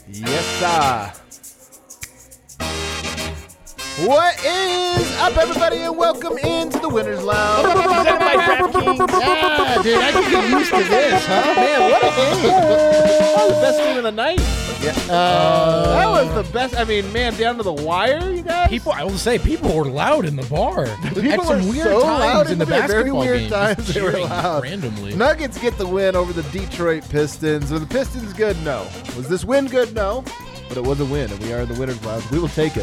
Yes, sir. What is up, everybody, and welcome into the Winners Lounge. Presented by DraftKings. Yeah, dude, I can get used to this, huh? Man, what a game. That was the best game of the night. Yeah. That was the best. I mean, man, down to the wire, you guys. I will say, people were loud in the bar. People At some were weird so times loud in the very basketball weird game. times Just they were cheering loud. randomly. Nuggets get the win over the Detroit Pistons. Were the Pistons good? No. Was this win good? No. But it was a win, and we are in the Winners Lounge. We will take it.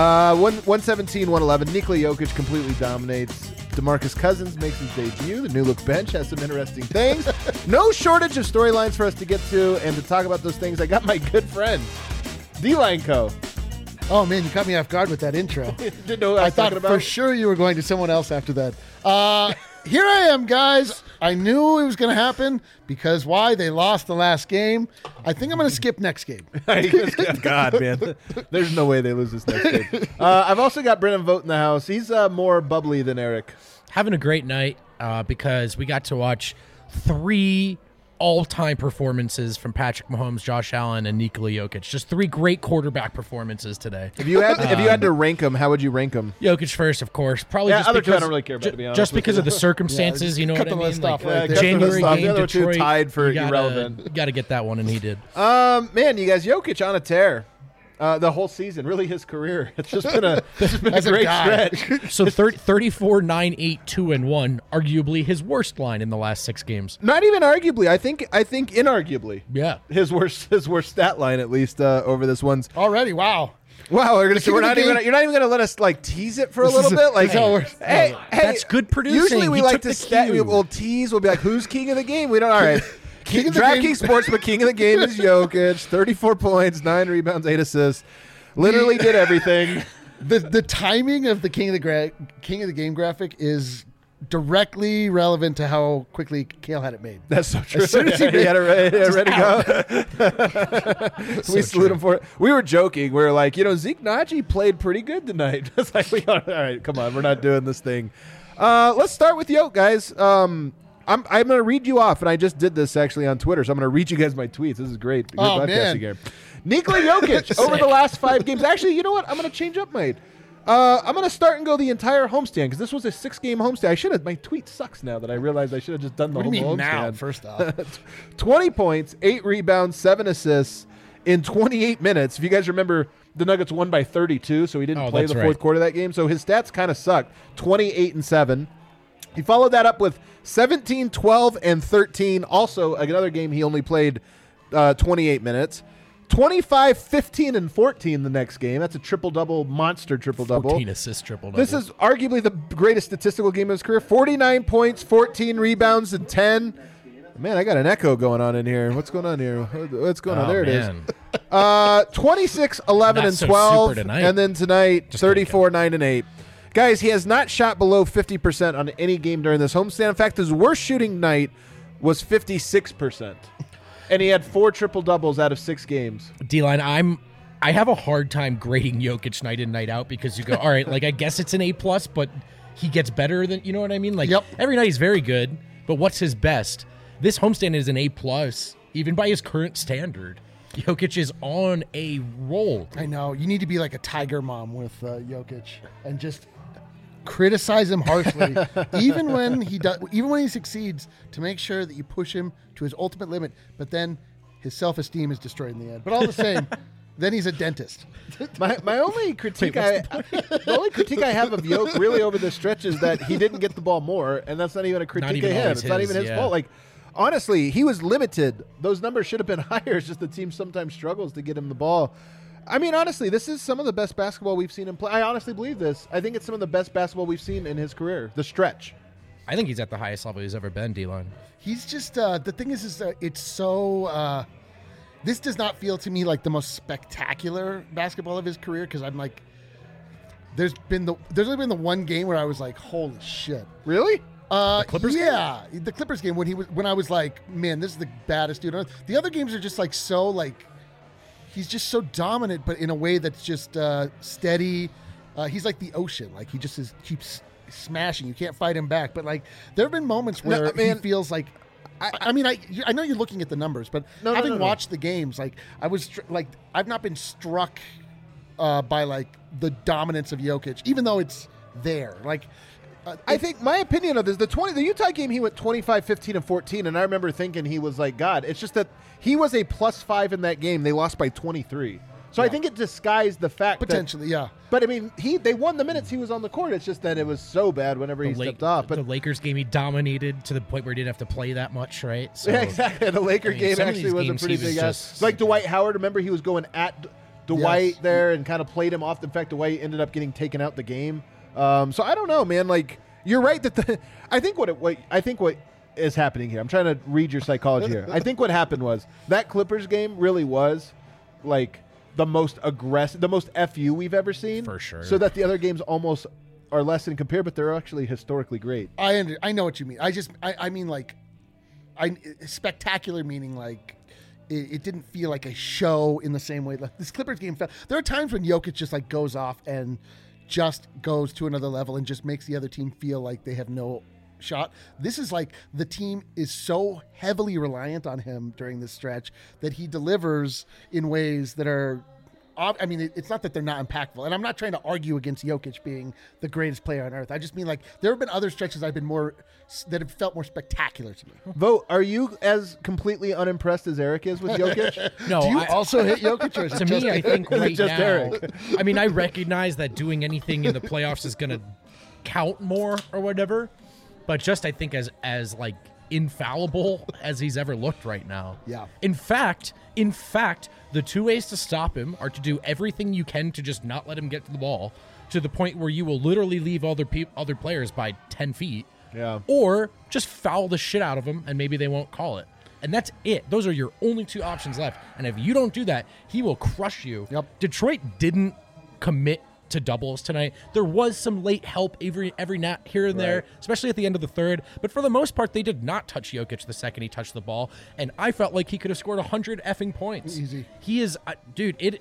117-111. Nikola Jokic completely dominates. DeMarcus Cousins makes his debut. The new-look bench has some interesting things. No shortage of storylines for us to get to, and to talk about those things, I got my good friend, D-Line Co. Oh, man, you caught me off guard with that intro. Didn't know what I I was thought talking about. for sure you were going to someone else after that. Here I am, guys. I knew it was going to happen because why? They lost the last game. I think I'm going to skip next game. God, man. There's no way they lose this next game. I've also got Brennan Vogt in the house. He's more bubbly than Eric. Having a great night because we got to watch 3 all-time performances from Patrick Mahomes, Josh Allen, and Nikola Jokic. Just 3 great quarterback performances today. If you had to rank them, how would you rank them? Jokic first, of course. Probably Yeah, just other two because I don't really care about, to be honest just with because you. of the circumstances, you know cut what I the mean? list off right Like, there. January Cut the list off. game, The other two Detroit, tied for you gotta- irrelevant. You got to get that one, and he did. Man, you guys, Jokic on a tear. The whole season, really his career. It's just been a As a great guy. stretch. So 34, 9, 8, 2, and 1, arguably his worst line in the last 6 games. Not even arguably. I think inarguably Yeah. his worst stat line, at least over this one's. Already, wow. Wow, we're gonna, King we're of the not even game. gonna, you're not even gonna let us like tease it for a This little is bit. Like, this is how we're- hey, That's good producing. Usually we He like took to the stat. cue. We'll tease. We'll be like, who's king of the game? We don't. All right. King of the game. DraftKings Sportsbook king of the game is Jokic. 34 points, 9 rebounds, 8 assists. Literally did everything. The timing of the King of the Game graphic is directly relevant to how quickly Kale had it made. That's so true. As soon as he had it ready to go. We salute him for it. We were joking. We were like, Zeke Naji played pretty good tonight. It's like, all right, come on, we're not doing this thing. Let's start with Yoke, guys. I'm going to read you off, and I just did this actually on Twitter, so I'm going to read you guys my tweets. This is great. Good Oh, podcasting man. here. Nikola Jokic over the last 5 games. Actually, you know what? I'm going to change up mine. I'm going to start and go the entire homestand because this was a 6-game homestand. I should have. My tweet sucks now that I realized I should have just done the What do you whole mean homestand. now, first off? 20 points, 8 rebounds, 7 assists in 28 minutes. If you guys remember, the Nuggets won by 32, so he didn't play that's the right. fourth quarter of that game. So his stats kind of sucked. 28 and 7. He followed that up with 17, 12, and 13. Also, another game he only played 28 minutes. 25, 15, and 14 the next game. That's a triple-double, monster triple-double. 14 assists, triple-double. This is arguably the greatest statistical game of his career. 49 points, 14 rebounds, and 10. Man, I got an echo going on in here. What's going on here? What's going on? There it is. 26, 11, Not and so 12. super tonight. And then tonight, Just 34, 9, and 8. Guys, he has not shot below 50% on any game during this homestand. In fact, his worst shooting night was 56%. And he had 4 triple-doubles out of 6 games. D-line, I have a hard time grading Jokic night in, night out because you go, all right, like I guess it's an A+, but he gets better than, you know what I mean? Like Yep. every night he's very good, but what's his best? This homestand is an A+, even by his current standard. Jokic is on a roll. I know. You need to be like a tiger mom with Jokic and just criticize him harshly, even when he succeeds, to make sure that you push him to his ultimate limit. But then his self-esteem is destroyed in the end. But all the same, then he's a dentist. My only critique, the only critique I have of Yoke really over the stretch is that he didn't get the ball more, and that's not even a critique even of him. always It's not even his yeah. fault. Like, honestly, he was limited. Those numbers should have been higher. It's just the team sometimes struggles to get him the ball. I mean, honestly, this is some of the best basketball we've seen him play. I honestly believe this. I think it's some of the best basketball we've seen in his career. The stretch. I think he's at the highest level he's ever been, D-line. He's just the thing is it's so. This does not feel to me like the most spectacular basketball of his career because I'm like, there's only been the one game where I was like, holy shit. Really? Clippers game? Yeah, the Clippers game when I was like, man, this is the baddest dude on earth. The other games are just like so like, he's just so dominant, but in a way that's just steady. He's like the ocean, like he just keeps smashing. You can't fight him back. But like, there have been moments where he feels like I mean, I know you're looking at the numbers, but having watched the games, like I was like, I've not been struck by like the dominance of Jokic, even though it's there. Like, I think my opinion of this, the Utah game, he went 25, 15, and 14, and I remember thinking he was like God. It's just that he was a +5 in that game. They lost by 23. So I think it disguised the fact potentially, yeah. But I mean, they won the minutes he was on the court. It's just that it was so bad whenever he stepped off. But the Lakers game, he dominated to the point where he didn't have to play that much, right? So, yeah, exactly. The Laker game actually was a pretty big ass. Like Dwight Howard, remember he was going at Dwight there and kind of played him off. In fact, Dwight ended up getting taken out the game. So I don't know, man. Like you're right that I think what is happening here. I'm trying to read your psychology here. I think what happened was that Clippers game really was like the most aggressive, the most FU we've ever seen. For sure. So that the other games almost are less than compared, but they're actually historically great. I know what you mean. I mean like, spectacular meaning like it didn't feel like a show in the same way. Like this Clippers game felt. There are times when Jokic just like goes off and just goes to another level and just makes the other team feel like they have no shot. This is like the team is so heavily reliant on him during this stretch that he delivers in ways that are, I mean, it's not that they're not impactful, and I'm not trying to argue against Jokic being the greatest player on earth. I just mean like there have been other stretches that have felt more spectacular to me. Vote, are you as completely unimpressed as Eric is with Jokic? No, do you also hit Jokic? Or to me, I think right now, Eric? I mean, I recognize that doing anything in the playoffs is going to count more or whatever. But just I think as like infallible as he's ever looked right now. Yeah. In fact, the two ways to stop him are to do everything you can to just not let him get to the ball to the point where you will literally leave other players by 10 feet. Yeah. Or just foul the shit out of him and maybe they won't call it. And that's it. Those are your only two options left. And if you don't do that, he will crush you. Yep. Detroit didn't commit to doubles tonight. There was some late help every now here and there, especially at the end of the third. But for the most part, they did not touch Jokic the second he touched the ball. And I felt like he could have scored 100 effing points. Easy. He is, dude.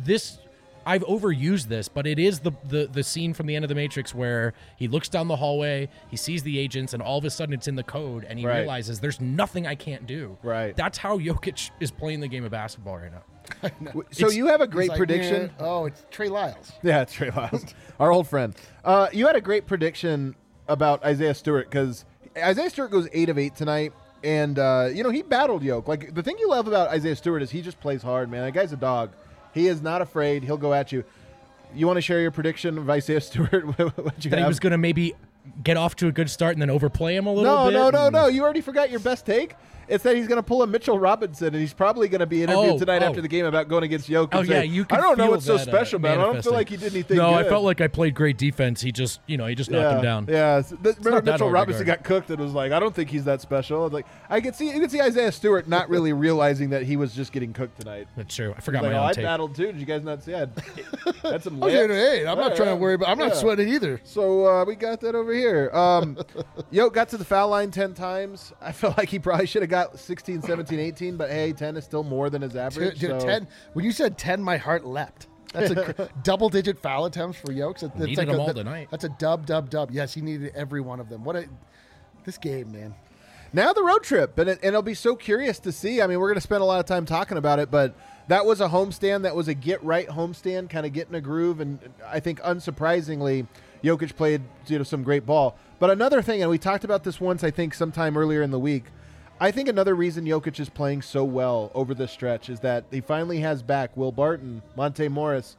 I've overused this, but it is the scene from the end of The Matrix where he looks down the hallway, he sees the agents, and all of a sudden it's in the code, and he realizes there's nothing I can't do. Right. That's how Jokic is playing the game of basketball right now. So you have a great prediction. It's Trey Lyles. Yeah, it's Trey Lyles, our old friend. You had a great prediction about Isaiah Stewart because Isaiah Stewart goes 8 of 8 tonight, and he battled Yoke. Like the thing you love about Isaiah Stewart is he just plays hard, man. That guy's a dog. He is not afraid. He'll go at you. You want to share your prediction of Isaiah Stewart? What you that have? He was going to maybe get off to a good start and then overplay him a little bit? No. You already forgot your best take. It's that he's going to pull a Mitchell Robinson, and he's probably going to be interviewed tonight after the game about going against Jokic. You could I don't know feel what's so that, special about it. I don't feel like he did anything No, good. I felt like I played great defense. He just knocked him down. Yeah. Remember Mitchell Robinson guard. got cooked and was like, I don't think he's that special. Like you could see Isaiah Stewart not really realizing that he was just getting cooked tonight. That's true. I forgot my own I tape. battled too. Did you guys not see? I had some I'm not trying to worry about. I'm not sweating either. So we got that over here. Yoke got to the foul line 10 times. I felt like he probably should have got 16, 17, 18, but hey, 10 is still more than his average. Dude, 10. When you said 10, my heart leapt. That's a double-digit foul attempts for Yokes. Needed them all tonight. That's a dub. Yes, he needed every one of them. This game, man. Now the road trip, and it'll be so curious to see. I mean, we're going to spend a lot of time talking about it, but that was a homestand. That was a get-right homestand, kind of get in a groove, and I think unsurprisingly, Jokic played some great ball. But another thing, and we talked about this once, I think, sometime earlier in the week, I think another reason Jokic is playing so well over this stretch is that he finally has back Will Barton, Monte Morris.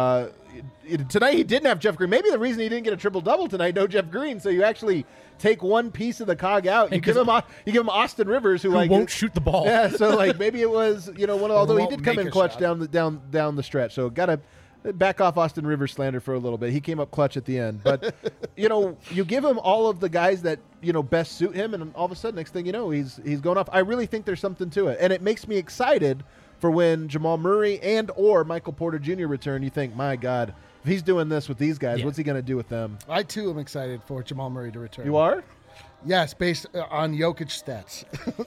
Tonight he didn't have Jeff Green. Maybe the reason he didn't get a triple-double tonight, no Jeff Green. So you actually take one piece of the cog out. You give him Austin Rivers, who won't shoot the ball. Yeah, so maybe it was one of. Although he did come in clutch down the stretch. So got to back off Austin Rivers slander for a little bit. He came up clutch at the end. But, you give him all of the guys that, best suit him, and all of a sudden, next thing you know, he's going off. I really think there's something to it. And it makes me excited for when Jamal Murray and or Michael Porter Jr. return. You think, my God, if he's doing this with these guys, what's he going to do with them? I, too, am excited for Jamal Murray to return. You are? Yes, based on Jokic stats.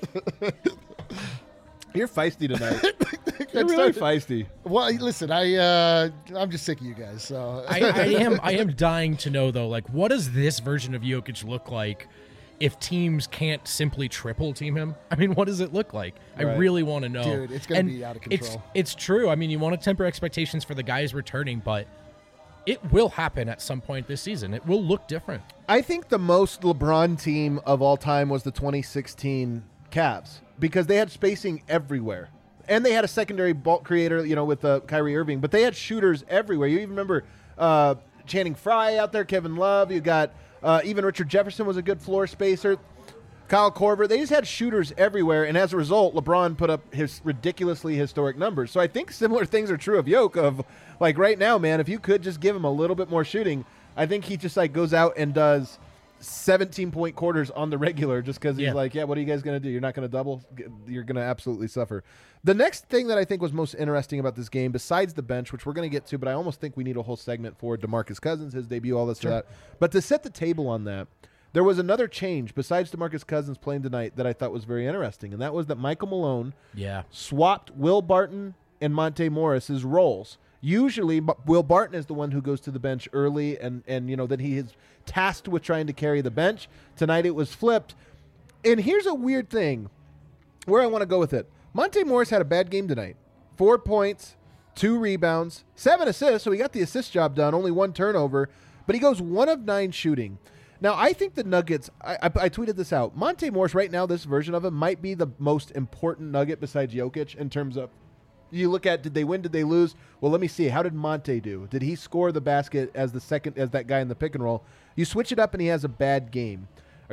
You're feisty tonight. You're really feisty. Well, listen, I'm just sick of you guys. So I am dying to know though, what does this version of Jokic look like if teams can't simply triple team him. I mean, what does it look like? I really want to know. Dude, it's going to be out of control. It's true. I mean, you want to temper expectations for the guys returning, but it will happen at some point this season. It will look different. I think the most LeBron team of all time was the 2016 Cavs because they had spacing everywhere. And they had a secondary ball creator, with Kyrie Irving. But they had shooters everywhere. You even remember Channing Frye out there, Kevin Love. You got even Richard Jefferson was a good floor spacer. Kyle Korver. They just had shooters everywhere. And as a result, LeBron put up his ridiculously historic numbers. So I think similar things are true of Yoke of, like, right now, man, if you could just give him a little bit more shooting, I think he just, like, goes out and does 17-point quarters on the regular just because he's like, yeah, what are you guys going to do? You're not going to double? You're going to absolutely suffer. The next thing that I think was most interesting about this game, besides the bench, which we're going to get to, but I almost think we need a whole segment for DeMarcus Cousins, his debut, all this to that. But to set the table on that, there was another change besides DeMarcus Cousins playing tonight that I thought was very interesting, and that was that Michael Malone swapped Will Barton and Monte Morris's roles. Usually, Will Barton is the one who goes to the bench early, and then he is tasked with trying to carry the bench. Tonight it was flipped. And here's a weird thing where I want to go with it. Monte Morris had a bad game tonight. 4 points, 2 rebounds, 7 assists, so he got the assist job done, only 1 turnover, but he goes 1 of 9 shooting. Now, I think the Nuggets, I tweeted this out. Monte Morris right now, this version of him, might be the most important Nugget besides Jokic in terms of, you look at, did they win, did they lose? Well, let me see. How did Monte do? Did he score the basket as that guy in the pick and roll? You switch it up and he has a bad game.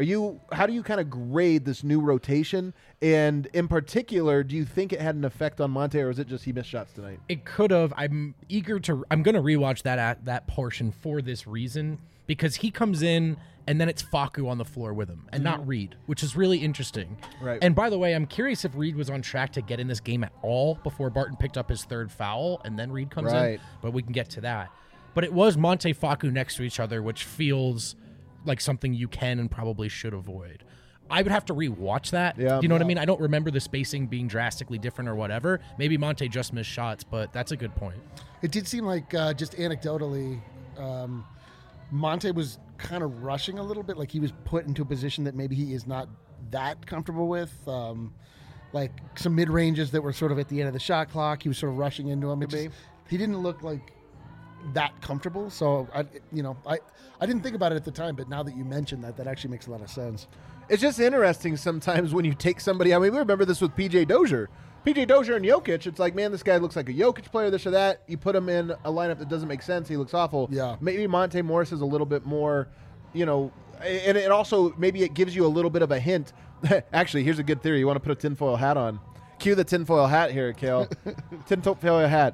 How do you kind of grade this new rotation? And in particular, do you think it had an effect on Monte, or is it just he missed shots tonight? It could have. I'm going to rewatch that portion for this reason, because he comes in and then it's Facu on the floor with him and not Reed, which is really interesting. Right. And by the way, I'm curious if Reed was on track to get in this game at all before Barton picked up his 3rd foul and then Reed comes in. But we can get to that. But it was Monte Facu next to each other, which feels like something you can and probably should avoid. I would have to rewatch that. Yeah. Do you know what I mean? I don't remember the spacing being drastically different or whatever. Maybe Monte just missed shots, but that's a good point. It did seem like, just anecdotally, Monte was kind of rushing a little bit, like he was put into a position that maybe he is not that comfortable with. Like some mid-ranges that were sort of at the end of the shot clock. He was sort of rushing into them. He didn't look like that comfortable. So, I didn't think about it at the time, but now that you mentioned that actually makes a lot of sense. It's just interesting sometimes when you take somebody. I mean, we remember this with P.J. Dozier. P.J. Dozier and Jokic, it's like, man, this guy looks like a Jokic player, this or that. You put him in a lineup that doesn't make sense. He looks awful. Yeah. Maybe Monte Morris is a little bit more, and it also, maybe it gives you a little bit of a hint. Actually, here's a good theory. You want to put a tinfoil hat on. Cue the tinfoil hat here, Kale. Tinfoil hat.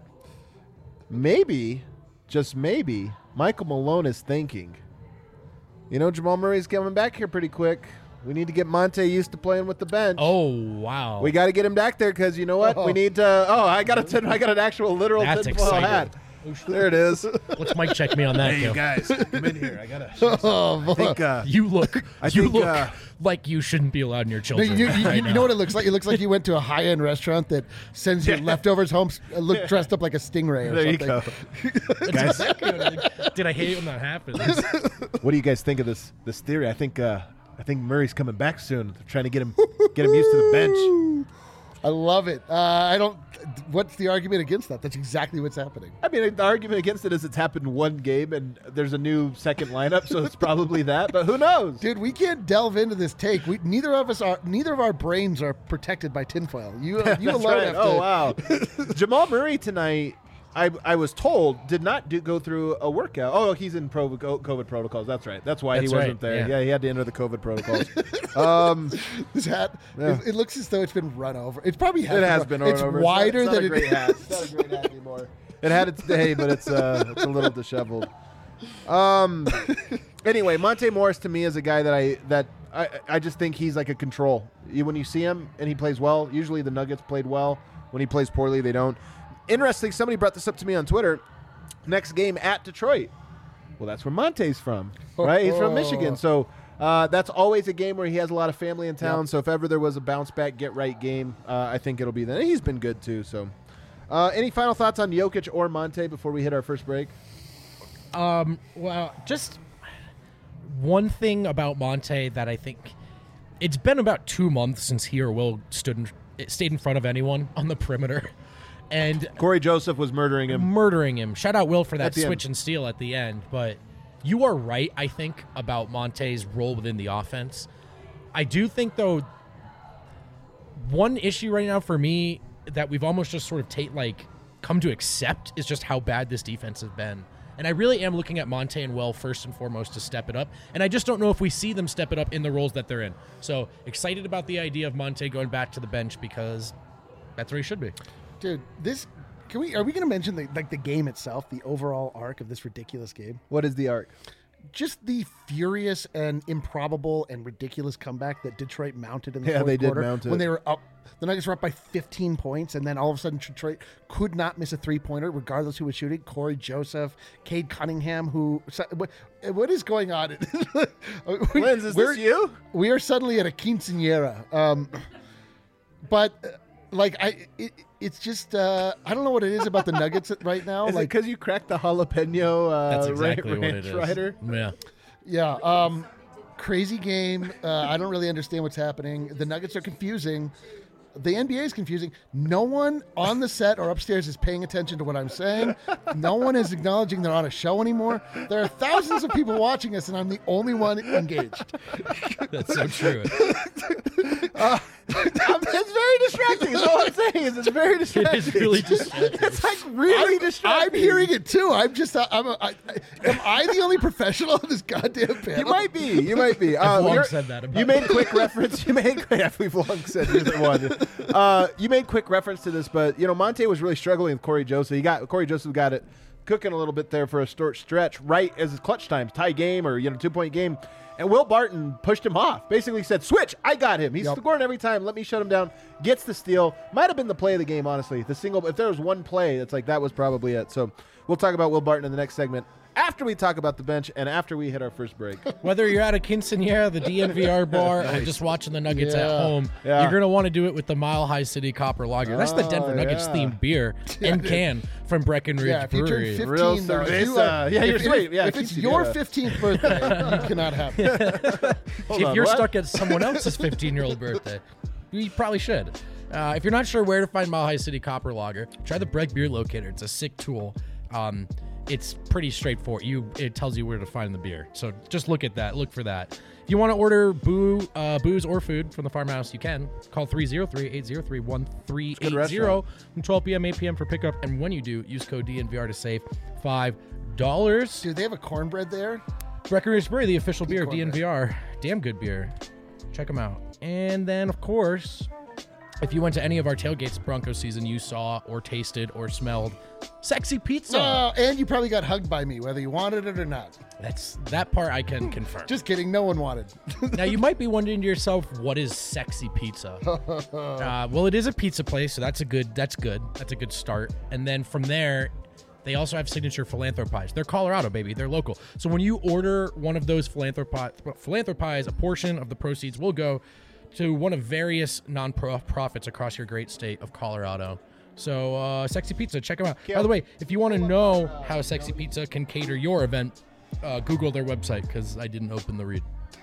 Maybe, just maybe, Michael Malone is thinking, Jamal Murray's coming back here pretty quick. We need to get Monte used to playing with the bench. Oh, wow. We got to get him back there because you know what? We need to. I got an actual literal tinfoil hat. There it is. Let's mic check me on that. Hey, you guys, come in here. I got to. I think you look like you shouldn't be allowed near children. You know what it looks like? It looks like you went to a high-end restaurant that sends you leftovers home, dressed up like a stingray or something. There you go. Guys. Did I hate when that happens? What do you guys think of this theory? I think Murray's coming back soon. They're trying to get him used to the bench. I love it. What's the argument against that? That's exactly what's happening. I mean, the argument against it is it's happened one game and there's a new second lineup, so it's probably that. But who knows? Dude, we can't delve into this take. Neither of our brains are protected by tinfoil. You alone right. have to. Oh wow. Jamal Murray tonight, I was told, did not go through a workout. Oh, he's in COVID protocols. That's right. That's why he wasn't there. Yeah, he had to enter the COVID protocols. This hat, it looks as though it's been run over. It probably has. It has been run over. It's wider it's not than a great hat. It's not a great hat anymore. It had its day, but it's a little disheveled. Anyway, Monte Morris to me is a guy that I just think he's like a control. When you see him and he plays well, usually the Nuggets played well. When he plays poorly, they don't. Interesting, somebody brought this up to me on Twitter. Next game at Detroit. Well, that's where Monte's from, right? He's from Michigan. So that's always a game where he has a lot of family in town. Yep. So if ever there was a bounce-back, get-right game, I think it'll be then. He's been good, too. So, any final thoughts on Jokic or Monte before we hit our first break? Well, just one thing about Monte that I think it's been about 2 months since he or Will stayed in front of anyone on the perimeter. And Corey Joseph was murdering him. Shout out Will for that switch end. and steal at the end. But you are right, I think, about Monte's role within the offense. I do think, though, one issue right now for me that we've almost just sort of come to accept is just how bad this defense has been. And I really am looking at Monte and Will first and foremost to step it up. And I just don't know if we see them step it up in the roles that they're in. So excited about the idea of Monte going back to the bench because that's where he should be. Dude, are we going to mention the game itself, the overall arc of this ridiculous game? What is the arc? Just the furious and improbable and ridiculous comeback that Detroit mounted in the fourth they did quarter mount it. when they were up. The Nuggets were up by 15 points, and then all of a sudden Detroit could not miss a three-pointer, regardless who was shooting. Corey Joseph, Cade Cunningham, what is going on? Linz, is this you? We are suddenly at a quinceañera. It's just I don't know what it is about the Nuggets right now. Is it because you cracked the jalapeno That's exactly what ranch it is. rider? Yeah. Crazy game. I don't really understand what's happening. The Nuggets are confusing. The NBA is confusing. No one on the set or upstairs is paying attention to what I'm saying. No one is acknowledging they're on a show anymore. There are thousands of people watching us, and I'm the only one engaged. That's so true. It's very distracting. All I'm saying is it's very distracting. It is really distracting. It's like really distracting. I'm hearing it too. I'm just. Am I the only professional on this goddamn panel? You might be. I've long said that about you made quick reference. We've long said you're the one. You made quick reference to this, but Monte was really struggling with Corey Joseph. Corey Joseph got it cooking a little bit there for a short stretch, right as his clutch times, tie game or 2-point game. And Will Barton pushed him off. Basically said, "Switch, I got him. He's scoring every time. Let me shut him down." Gets the steal. Might have been the play of the game, honestly. The single. If there was one play, it's like that was probably it. So we'll talk about Will Barton in the next segment after we talk about the bench and after we hit our first break. Whether you're at a quinceañera, the DNVR bar, or just watching the Nuggets at home, you're going to want to do it with the Mile High City Copper Lager. That's the Denver Nuggets themed beer and can from Breckenridge Brewery. If you turn 15, Real cerveza. You're sweet. Yeah, if it's your 15th birthday, you cannot have it. If you're stuck at someone else's 15-year-old birthday, you probably should. If you're not sure where to find Mile High City Copper Lager, try the Breck Beer Locator. It's a sick tool. It's pretty straightforward. It tells you where to find the beer. So just look at that. Look for that. If you want to order booze or food from the farmhouse, you can. Call 303-803-1380 from 12 p.m. 8 p.m. for pickup. And when you do, use code DNVR to save $5. Dude, they have a cornbread there. Breckenridge Brewery, the official beer of cornbread. DNVR. Damn good beer. Check them out. And then, of course, if you went to any of our tailgates Broncos season, you saw or tasted or smelled Sexy Pizza. And you probably got hugged by me, whether you wanted it or not. That part I can confirm. Just kidding. No one wanted. Now, you might be wondering to yourself, what is Sexy Pizza? Well, it is a pizza place, so that's good. That's a good start. And then from there, they also have signature philanthropies. They're Colorado, baby. They're local. So when you order one of those philanthropies, a portion of the proceeds will go to one of various non-profits across your great state of Colorado. So, Sexy Pizza, check them out. By the way, if you want to know how Sexy Pizza can cater your event, Google their website, because I didn't open the read.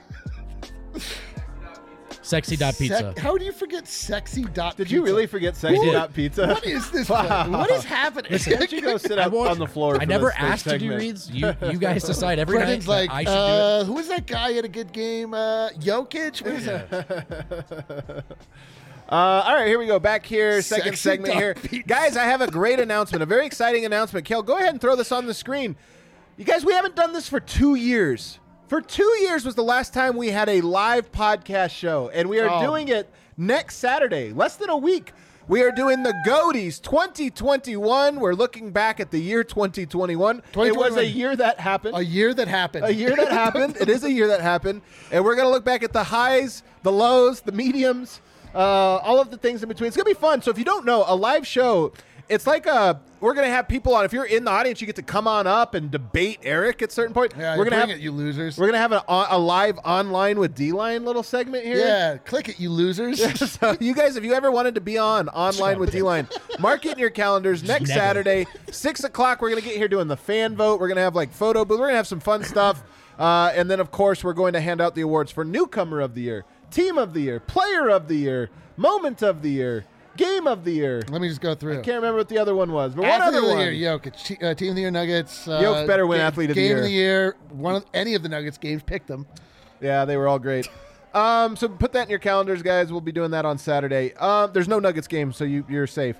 Sexy.pizza. How do you forget sexy.pizza? Did you really forget sexy.pizza? What is this? What is happening? Why don't you go sit up on the floor? I never asked to do reads. You guys decide every Brendan's night. like, I should do it. who is that guy at a good game? Jokic? What is that? All right, here we go. Back here, second Sexy segment here. pizza. Guys, I have a great announcement, a very exciting announcement. Kel, go ahead and throw this on the screen. You guys, we haven't done this for 2 years. For 2 years was the last time we had a live podcast show, and we are doing it next Saturday, less than a week. We are doing the Goaties 2021. We're looking back at the year 2021. It was a year that happened. A year that happened. A year that happened. It is a year that happened. And we're going to look back at the highs, the lows, the mediums, all of the things in between. It's going to be fun. So if you don't know, a live show, it's like we're going to have people on. If you're in the audience, you get to come on up and debate Eric at a certain point. Yeah, we're going to have it, you losers. We're going to have a live online with D-Line little segment here. Yeah, click it, you losers. So you guys, if you ever wanted to be online with D-Line, mark it in your calendars. Next Saturday, 6 o'clock, we're going to get here doing the fan vote. We're going to have like photo booth. We're going to have some fun stuff. And then, of course, we're going to hand out the awards for Newcomer of the Year, Team of the Year, Player of the Year, Moment of the Year, Game of the Year. Let me just go through. I can't remember what the other one was, but one Athlete other of the one. Year, Jokic. Team of the Year, Nuggets. Jokic better win Athlete of the Year. Game of the Year. Any of the Nuggets games, pick them. Yeah, they were all great. So put that in your calendars, guys. We'll be doing that on Saturday. There's no Nuggets game, so you're safe.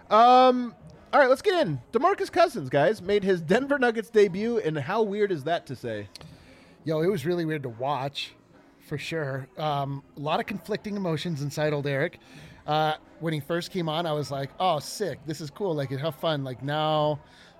All right, let's get in. DeMarcus Cousins, guys, made his Denver Nuggets debut, and how weird is that to say? Yo, it was really weird to watch, for sure. A lot of conflicting emotions inside old Eric. When he first came on, I was like, oh, sick. This is cool. Like, how fun. Like, now,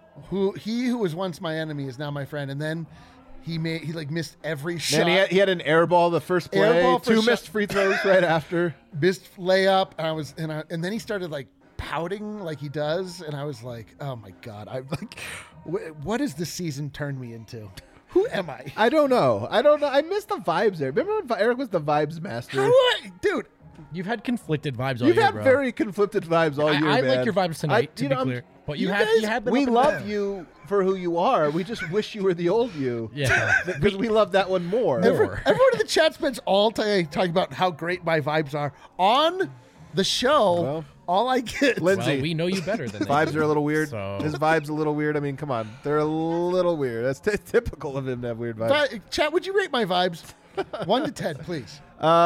who was once my enemy is now my friend. And then he missed every shot. Man, he had an air ball the first play, two missed free throws right after. Missed layup, and then he started, like, pouting like he does, and I was like, oh my God, I'm like, what has this season turned me into? Who am I? I don't know. I missed the vibes there. Remember when Eric was the vibes master? Dude, You've had conflicted vibes all You've year, had bro. very conflicted vibes all year, I man. like your vibes tonight, to be clear. But you had them we up and love down. you for who you are. We just wish you were the old you. Yeah. Because we love that one more. More. everyone in the chat spends all day talking about how great my vibes are. On the show, Well, all I get... Lindsay, Well, we know you better than vibes are a little weird. So- His vibes a little weird. I mean, come on. They're a little weird. That's typical of him to have weird vibes. Chat, would you rate my vibes? 1 to 10, please.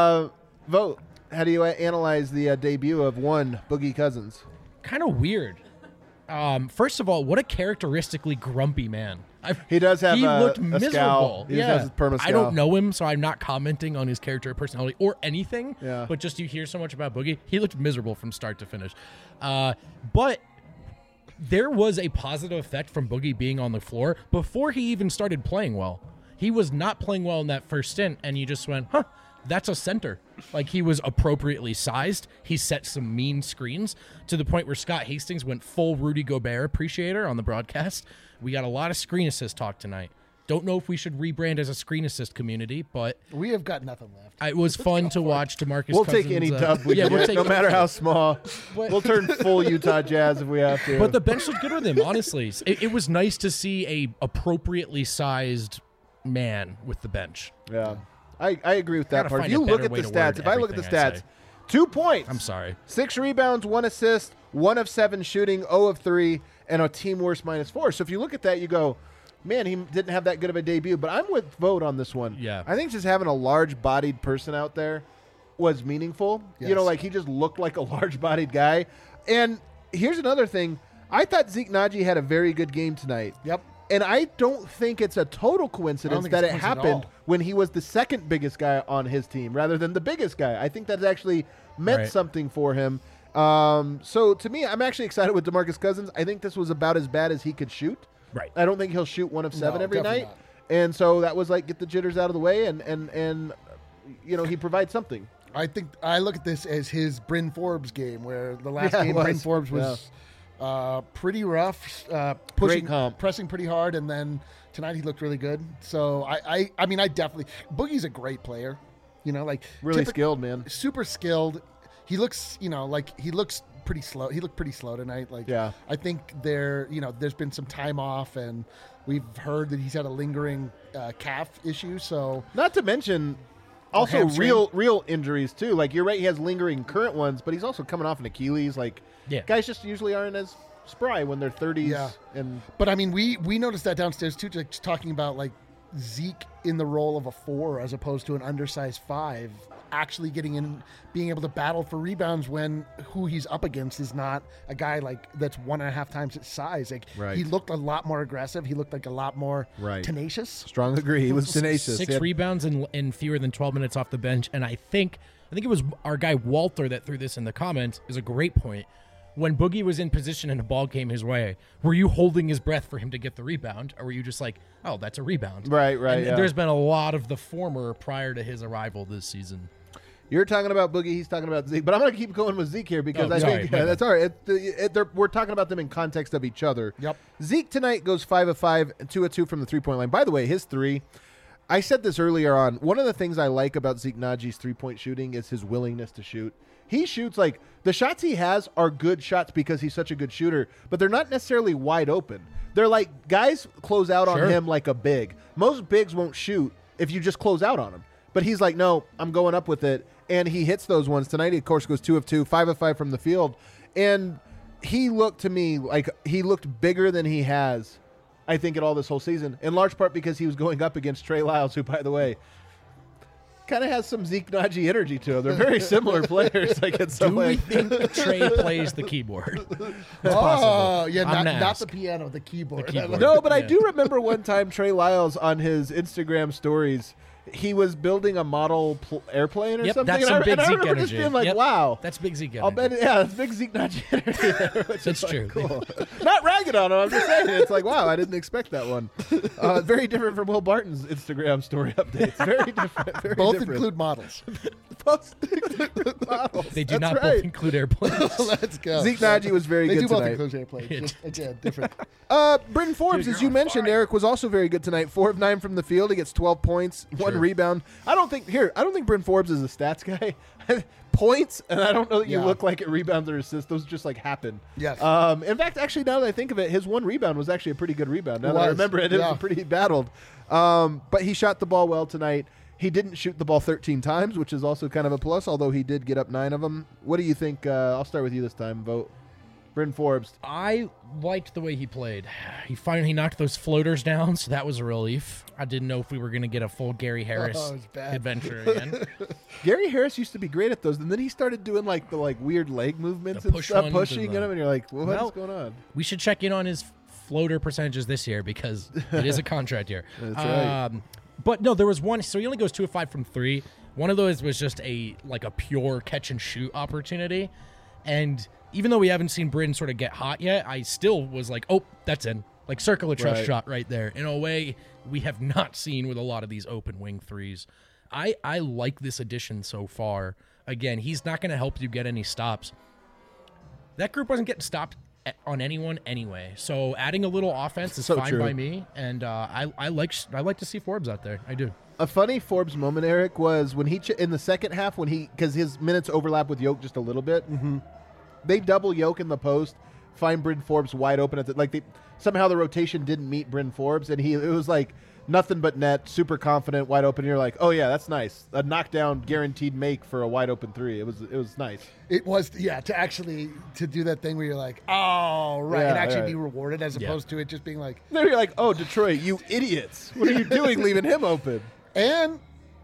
Vote. How do you analyze the debut of one Boogie Cousins? kind of weird. First of all, what a characteristically grumpy man. He does have he a looked a scowl. miserable. He has his perma I don't know him, so I'm not commenting on his character or personality or anything. Yeah. But just you hear so much about Boogie, he looked miserable from start to finish. But there was a positive effect from Boogie being on the floor before he even started playing well. He was not playing well in that first stint, and you just went, huh, that's a center. Like, he was appropriately sized. He set some mean screens to the point where Scott Hastings went full Rudy Gobert appreciator on the broadcast. We got a lot of screen assist talk tonight. Don't know if we should rebrand as a screen assist community, but We have got nothing left. it was fun to watch DeMarcus We'll Cousins. take any dub we yeah, get, we'll take no matter how small. But- We'll turn full Utah Jazz if we have to. But the bench looked good with him, honestly. It was nice to see a appropriately sized man with the bench. yeah, I agree with that Gotta part. If find you a look better at way the to stats, word if I look at the everything I stats, say. 2 points. I'm sorry. 6 rebounds, 1 assist, 1 of 7 shooting, 0 of 3, and a team worst -4. So if you look at that, you go, man, he didn't have that good of a debut. But I'm with Vote on this one. Yeah. I think just having a large-bodied person out there was meaningful. Yes. You know, like he just looked like a large-bodied guy. And here's another thing. I thought Zeke Naji had a very good game tonight. Yep. And I don't think it's a total coincidence think that it's it a coincidence at happened all. when he was the second biggest guy on his team rather than the biggest guy. I think that actually meant Right. something for him. So to me, I'm actually excited with DeMarcus Cousins. I think this was about as bad as he could shoot. Right. I don't think he'll shoot 1 of 7 No, every definitely night. not. And so that was like get the jitters out of the way and you know, he provides something. I think I look at this as his Bryn Forbes game, where the last Yeah, it game was. Bryn Forbes was pretty rough, pushing, comp. pressing pretty hard, and then tonight he looked really good. So I mean, I definitely Boogie's a great player, you know, like Really typic- skilled, man. super skilled. He looks, you know, like he looks pretty slow. He looked pretty slow tonight. Like, Yeah. I think there's been some time off, and we've heard that he's had a lingering calf issue. So Not to mention also hamstring. real injuries too. Like you're right, he has lingering current ones, but he's also coming off an Achilles. Like Yeah. guys just usually aren't as spry when they're 30s. Yeah. And But I mean, we noticed that downstairs too, just talking about like Zeke in the role of a 4 as opposed to an undersized 5, actually getting in, being able to battle for rebounds when who he's up against is not a guy like that's 1.5 times his size. Like Right. he looked a lot more aggressive. He looked like a lot more Right. tenacious. strong agree. He was tenacious. 6 He had- rebounds in fewer than 12 minutes off the bench. And I think it was our guy Walter that threw this in the comments, is a great point. When Boogie was in position and a ball came his way, were you holding his breath for him to get the rebound? Or were you just like, oh, that's a rebound? Right, And yeah. there's been a lot of the former prior to his arrival this season. You're talking about Boogie, he's talking about Zeke. But I'm going to keep going with Zeke here because Oh, I sorry, think my bad. that's all right. We're talking about them in context of each other. Yep. Zeke tonight goes 5 of 5, 2 of 2 from the 3-point line. By the way, his 3, I said this earlier on. One of the things I like about Zeke Naji's 3-point shooting is his willingness to shoot. He shoots like the shots he has are good shots because he's such a good shooter, but they're not necessarily wide open. They're like guys close out Sure. on him like a big. Most bigs won't shoot if you just close out on him. But he's like, no, I'm going up with it. and he hits those ones. Tonight, he, of course, goes 2 of 2, 5 of 5 from the field. And he looked to me like he looked bigger than he has, I think, at all this whole season, in large part because he was going up against Trey Lyles, who, by the way, kind of has some Zeke Naji energy to him. They're very similar players. Like in some Do we way. think Trey plays the keyboard? Oh, yeah, I'm gonna not ask. the piano, the keyboard. The keyboard. No, but I Yeah. do remember one time Trey Lyles on his Instagram stories, he was building a model airplane or Yep, something. that's and some big and I Zeke remember just energy. being like, Yep. wow. That's big Zeke energy. I'll bet, yeah, it's big Zeke Naji energy there. Which That's is like, true. Cool. Not ragging on him. I'm just saying. It's like, wow, I didn't expect that one. Very different from Will Barton's Instagram story updates. Very different. Very Both different. include models. Both include models. They do That's not right. both include airplanes. Let's go. Zeke Naji was very They good do both tonight. include airplanes. Yeah. Just, again, different. Britton Forbes, as you mentioned, Eric, was also very good tonight. 4 of 9 from the field. He gets 12 points, 1 Sure. rebound. I don't think Britton Forbes is a stats guy. Points, and I don't know that you Yeah. look like it rebounds or assists. Those just like happen. Yes. In fact, actually, now that I think of it, his 1 rebound was actually a pretty good rebound. Now It that I was, remember it, it yeah. was pretty battled. But he shot the ball well tonight. He didn't shoot the ball 13 times, which is also kind of a plus, although he did get up 9 of them. What do you think? I'll start with you this time, Vote. Britton Forbes. I liked the way he played. He finally knocked those floaters down, so that was a relief. I didn't know if we were going to get a full Gary Harris Oh, it was bad. adventure again. Gary Harris used to be great at those, and then he started doing like the weird leg movements The and push stuff, ones pushing and at him, and you're like, well, what Well, is going on? We should check in on his floater percentages this year because it is a contract year. That's right. But no, there was one. So he only goes 2 of 5 from 3. One of those was just a pure catch and shoot opportunity, and even though we haven't seen Britton sort of get hot yet, I still was like, oh, that's in. Like circle of trust Right. shot right there. In a way we have not seen with a lot of these open wing threes. I like this addition so far. Again, he's not going to help you get any stops. That group wasn't getting stopped on anyone anyway. So adding a little offense is So fine true. by me. And I like to see Forbes out there. I do. A funny Forbes moment, Eric, was when he in the second half because his minutes overlap with Yoke just a little bit. Mm-hmm. They double Yoke in the post, find Britton Forbes wide open somehow the rotation didn't meet Britton Forbes, and it was like nothing but net, super confident, wide open. You're like, oh yeah, that's nice, a knockdown guaranteed make for a wide open 3. It was nice. It was, yeah, to do that thing where you're like, oh, right, Yeah, and actually right. be rewarded as Yeah. opposed to it just being like, There you're like, oh, Detroit, you idiots, what are you doing leaving him open? and,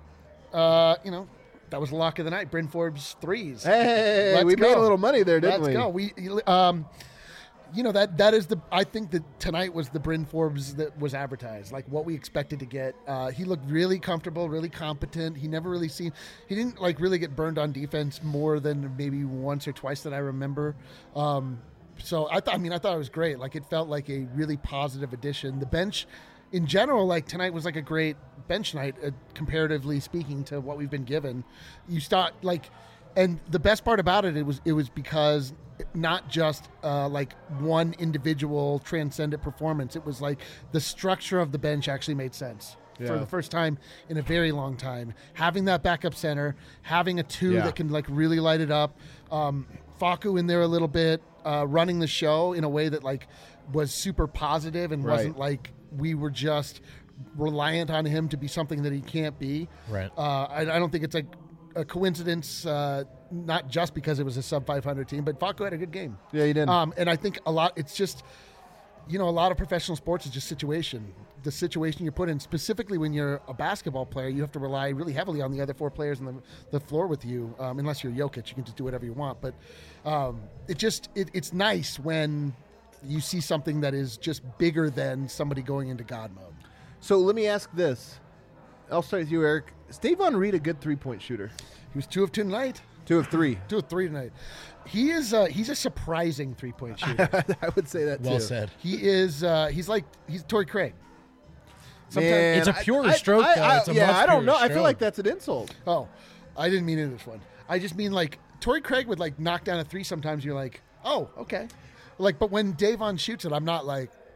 that was the lock of the night. Britton Forbes threes. Hey, Let's we made go. a little money there, didn't Let's we? go. That is I think that tonight was the Britton Forbes that was advertised, like what we expected to get. He looked really comfortable, really competent. He didn't like really get burned on defense more than maybe once or twice that I remember. So I thought it was great. Like it felt like a really positive addition. The bench in general, like tonight was like a great bench night, comparatively speaking to what we've been given. You start like, and the best part about it was because not just like one individual transcendent performance. It was like the structure of the bench actually made sense. Yeah. For the first time in a very long time. Having that backup center, having a 2 Yeah. that can like really light it up, Facu in there a little bit, running the show in a way that like was super positive and Right. wasn't like we were just reliant on him to be something that he can't be. Right. I don't think it's a coincidence, not just because it was a sub 500 team, but Facu had a good game. Yeah, he did. And I think it's just, a lot of professional sports is just situation. The situation you're put in, specifically when you're a basketball player, you have to rely really heavily on the other 4 players on the floor with you. Unless you're Jokic, you can just do whatever you want. But it's nice when you see something that is just bigger than somebody going into God mode. So let me ask this. I'll start with you, Eric. Is Davon Reed a good 3-point shooter? He was 2 of 2 tonight. 2 of 3. 2 of 3 tonight. He's a surprising 3-point shooter. I would say that too. Well said. He is. He's Torrey Craig. Man, It's a purer stroke, though. It's a much I don't purer know. I feel stroke. like that's an insult. Oh, I didn't mean it this one. I just mean like Torrey Craig would like knock down a 3 sometimes. You're like, oh, okay. Like, but when Davon shoots it, I'm not like,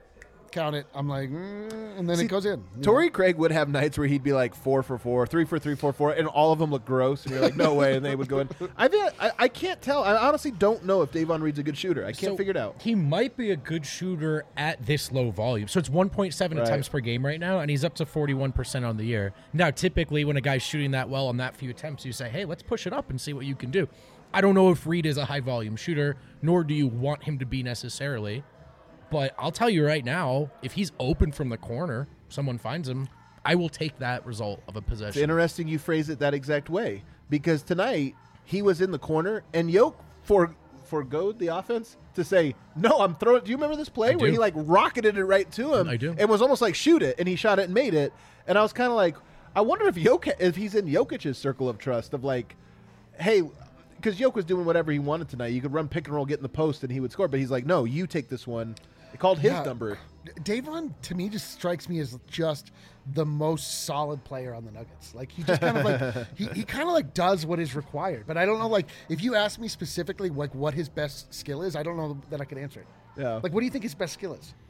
count it. I'm like, and then it goes in. Torrey Craig would have nights where he'd be like 4 for 4, 3 for 3, 4 for 4, and all of them look gross. And you're like, no way. And they would go in. I can't tell. I honestly don't know if Davon Reed's a good shooter. I can't figure it out. He might be a good shooter at this low volume. So it's 1.7 attempts per game right now, and he's up to 41% on the year. Now, typically, when a guy's shooting that well on that few attempts, you say, hey, let's push it up and see what you can do. I don't know if Reed is a high-volume shooter, nor do you want him to be necessarily. But I'll tell you right now, if he's open from the corner, someone finds him, I will take that result of a possession. It's interesting you phrase it that exact way, because tonight he was in the corner, and Yoke forgoed the offense to say, no, I'm throwing. Do you remember this play where he like rocketed it right to him? I do. And was almost like shoot it, and he shot it and made it. And I was kind of like, I wonder if he's in Jokic's circle of trust of like, hey, because Yoke was doing whatever he wanted tonight. You could run pick and roll, get in the post, and he would score. But he's like, no, you take this one. They called his number. Davon, to me, just strikes me as just the most solid player on the Nuggets. Like, he just kind of like, he kind of like does what is required. But I don't know, like, if you ask me specifically, like, what his best skill is, I don't know that I could answer it. Yeah. Like, what do you think his best skill is?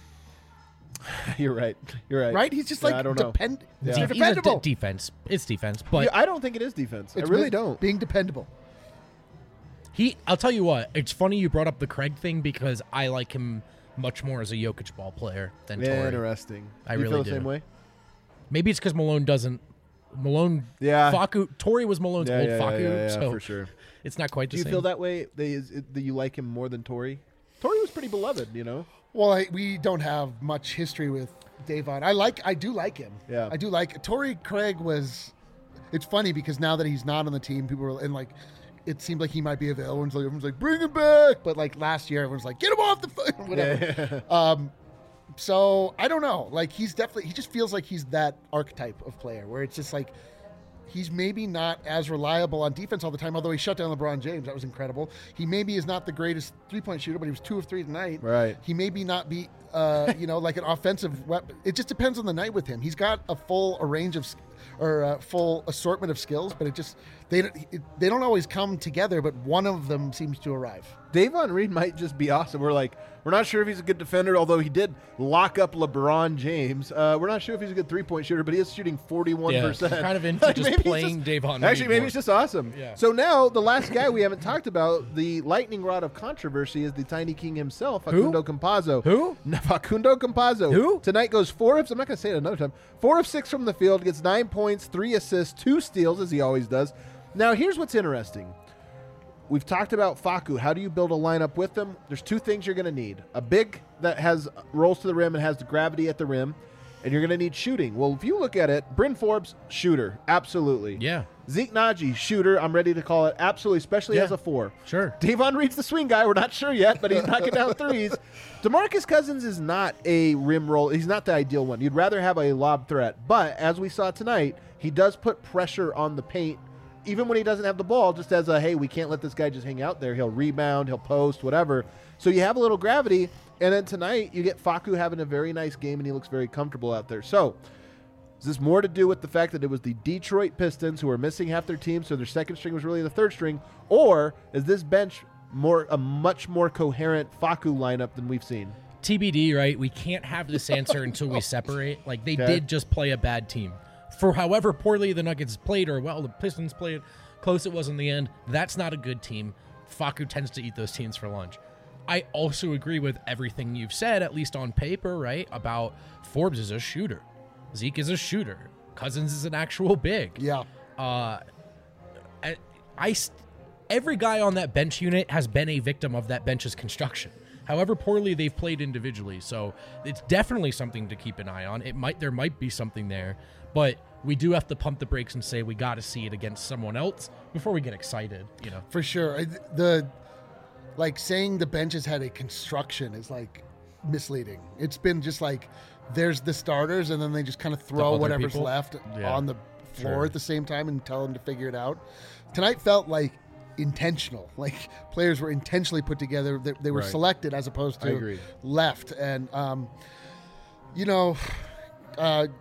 You're right. Right? He's just like I don't know. dependable. Defense. It's defense. But I don't think it is defense. It's I really don't. Being dependable. I'll tell you what, it's funny you brought up the Craig thing because I like him much more as a Jokic ball player than Torrey. Interesting. I you really feel the do. same way? Maybe it's because Malone doesn't. Facu. Torrey was Malone's old Facu, so for sure. it's not quite the Do same. you feel that way? That you like him more than Torrey? Torrey was pretty beloved, you know. Well, we don't have much history with Davon. I do like him. Yeah. I do like Torrey Craig was. It's funny because now that he's not on the team, people are and like. It seemed like he might be available. Everyone's like, bring him back. But like last year, everyone's like, get him off the phone, whatever. Yeah. So I don't know. Like he just feels like he's that archetype of player where it's just like he's maybe not as reliable on defense all the time, although he shut down LeBron James. That was incredible. He maybe is not the greatest three-point shooter, but he was 2 of 3 tonight. Right. He maybe not be, like an offensive weapon. It just depends on the night with him. He's got a full full assortment of skills, but they don't always come together, but one of them seems to arrive. Davon Reed might just be awesome. We're not sure if he's a good defender, although he did lock up LeBron James. We're not sure if he's a good three-point shooter, but he is shooting 41%. Yeah, kind of into just playing Davon Reed. Actually, maybe more. it's just awesome. Yeah. So now, the last guy we haven't talked about, the lightning rod of controversy, is the Tiny King himself, Facundo Campazzo. Who? Facundo Campazzo. Who? Tonight goes 4 of, I'm not going to say it another time, 4 of 6 from the field, gets 9 points, 3 assists, 2 steals, as he always does. Now, here's what's interesting. We've talked about Facu. How do you build a lineup with them? There's 2 things you're going to need. A big that rolls to the rim and has the gravity at the rim, and you're going to need shooting. Well, if you look at it, Bryn Forbes, shooter, absolutely. Yeah. Zeke Naji, shooter, I'm ready to call it, absolutely, especially as a 4. Sure. Davon Reed's the swing guy. We're not sure yet, but he's knocking down threes. DeMarcus Cousins is not a rim roll. He's not the ideal one. You'd rather have a lob threat. But as we saw tonight, he does put pressure on the paint, even when he doesn't have the ball, just as hey, we can't let this guy just hang out there. He'll rebound, he'll post, whatever. So you have a little gravity, and then tonight you get Facu having a very nice game, and he looks very comfortable out there. So is this more to do with the fact that it was the Detroit Pistons who were missing half their team, so their second string was really the third string, or is this bench a much more coherent Facu lineup than we've seen? TBD, right? We can't have this answer until we separate. Like, they did just play a bad team. For however poorly the Nuggets played, or well, the Pistons played, close it was in the end, that's not a good team. Facu tends to eat those teams for lunch. I also agree with everything you've said, at least on paper, right? About Forbes is a shooter. Zeke is a shooter. Cousins is an actual big. Yeah. Every guy on that bench unit has been a victim of that bench's construction. However poorly they've played individually, so it's definitely something to keep an eye on. There might be something there, but we do have to pump the brakes and say we got to see it against someone else before we get excited. You know, for sure. Saying the bench has had a construction is misleading. It's been just there's the starters, and then they just kind of throw whatever's people left on the floor at the same time and tell them to figure it out. Tonight felt intentional, players were intentionally put together. They were selected as opposed to left. And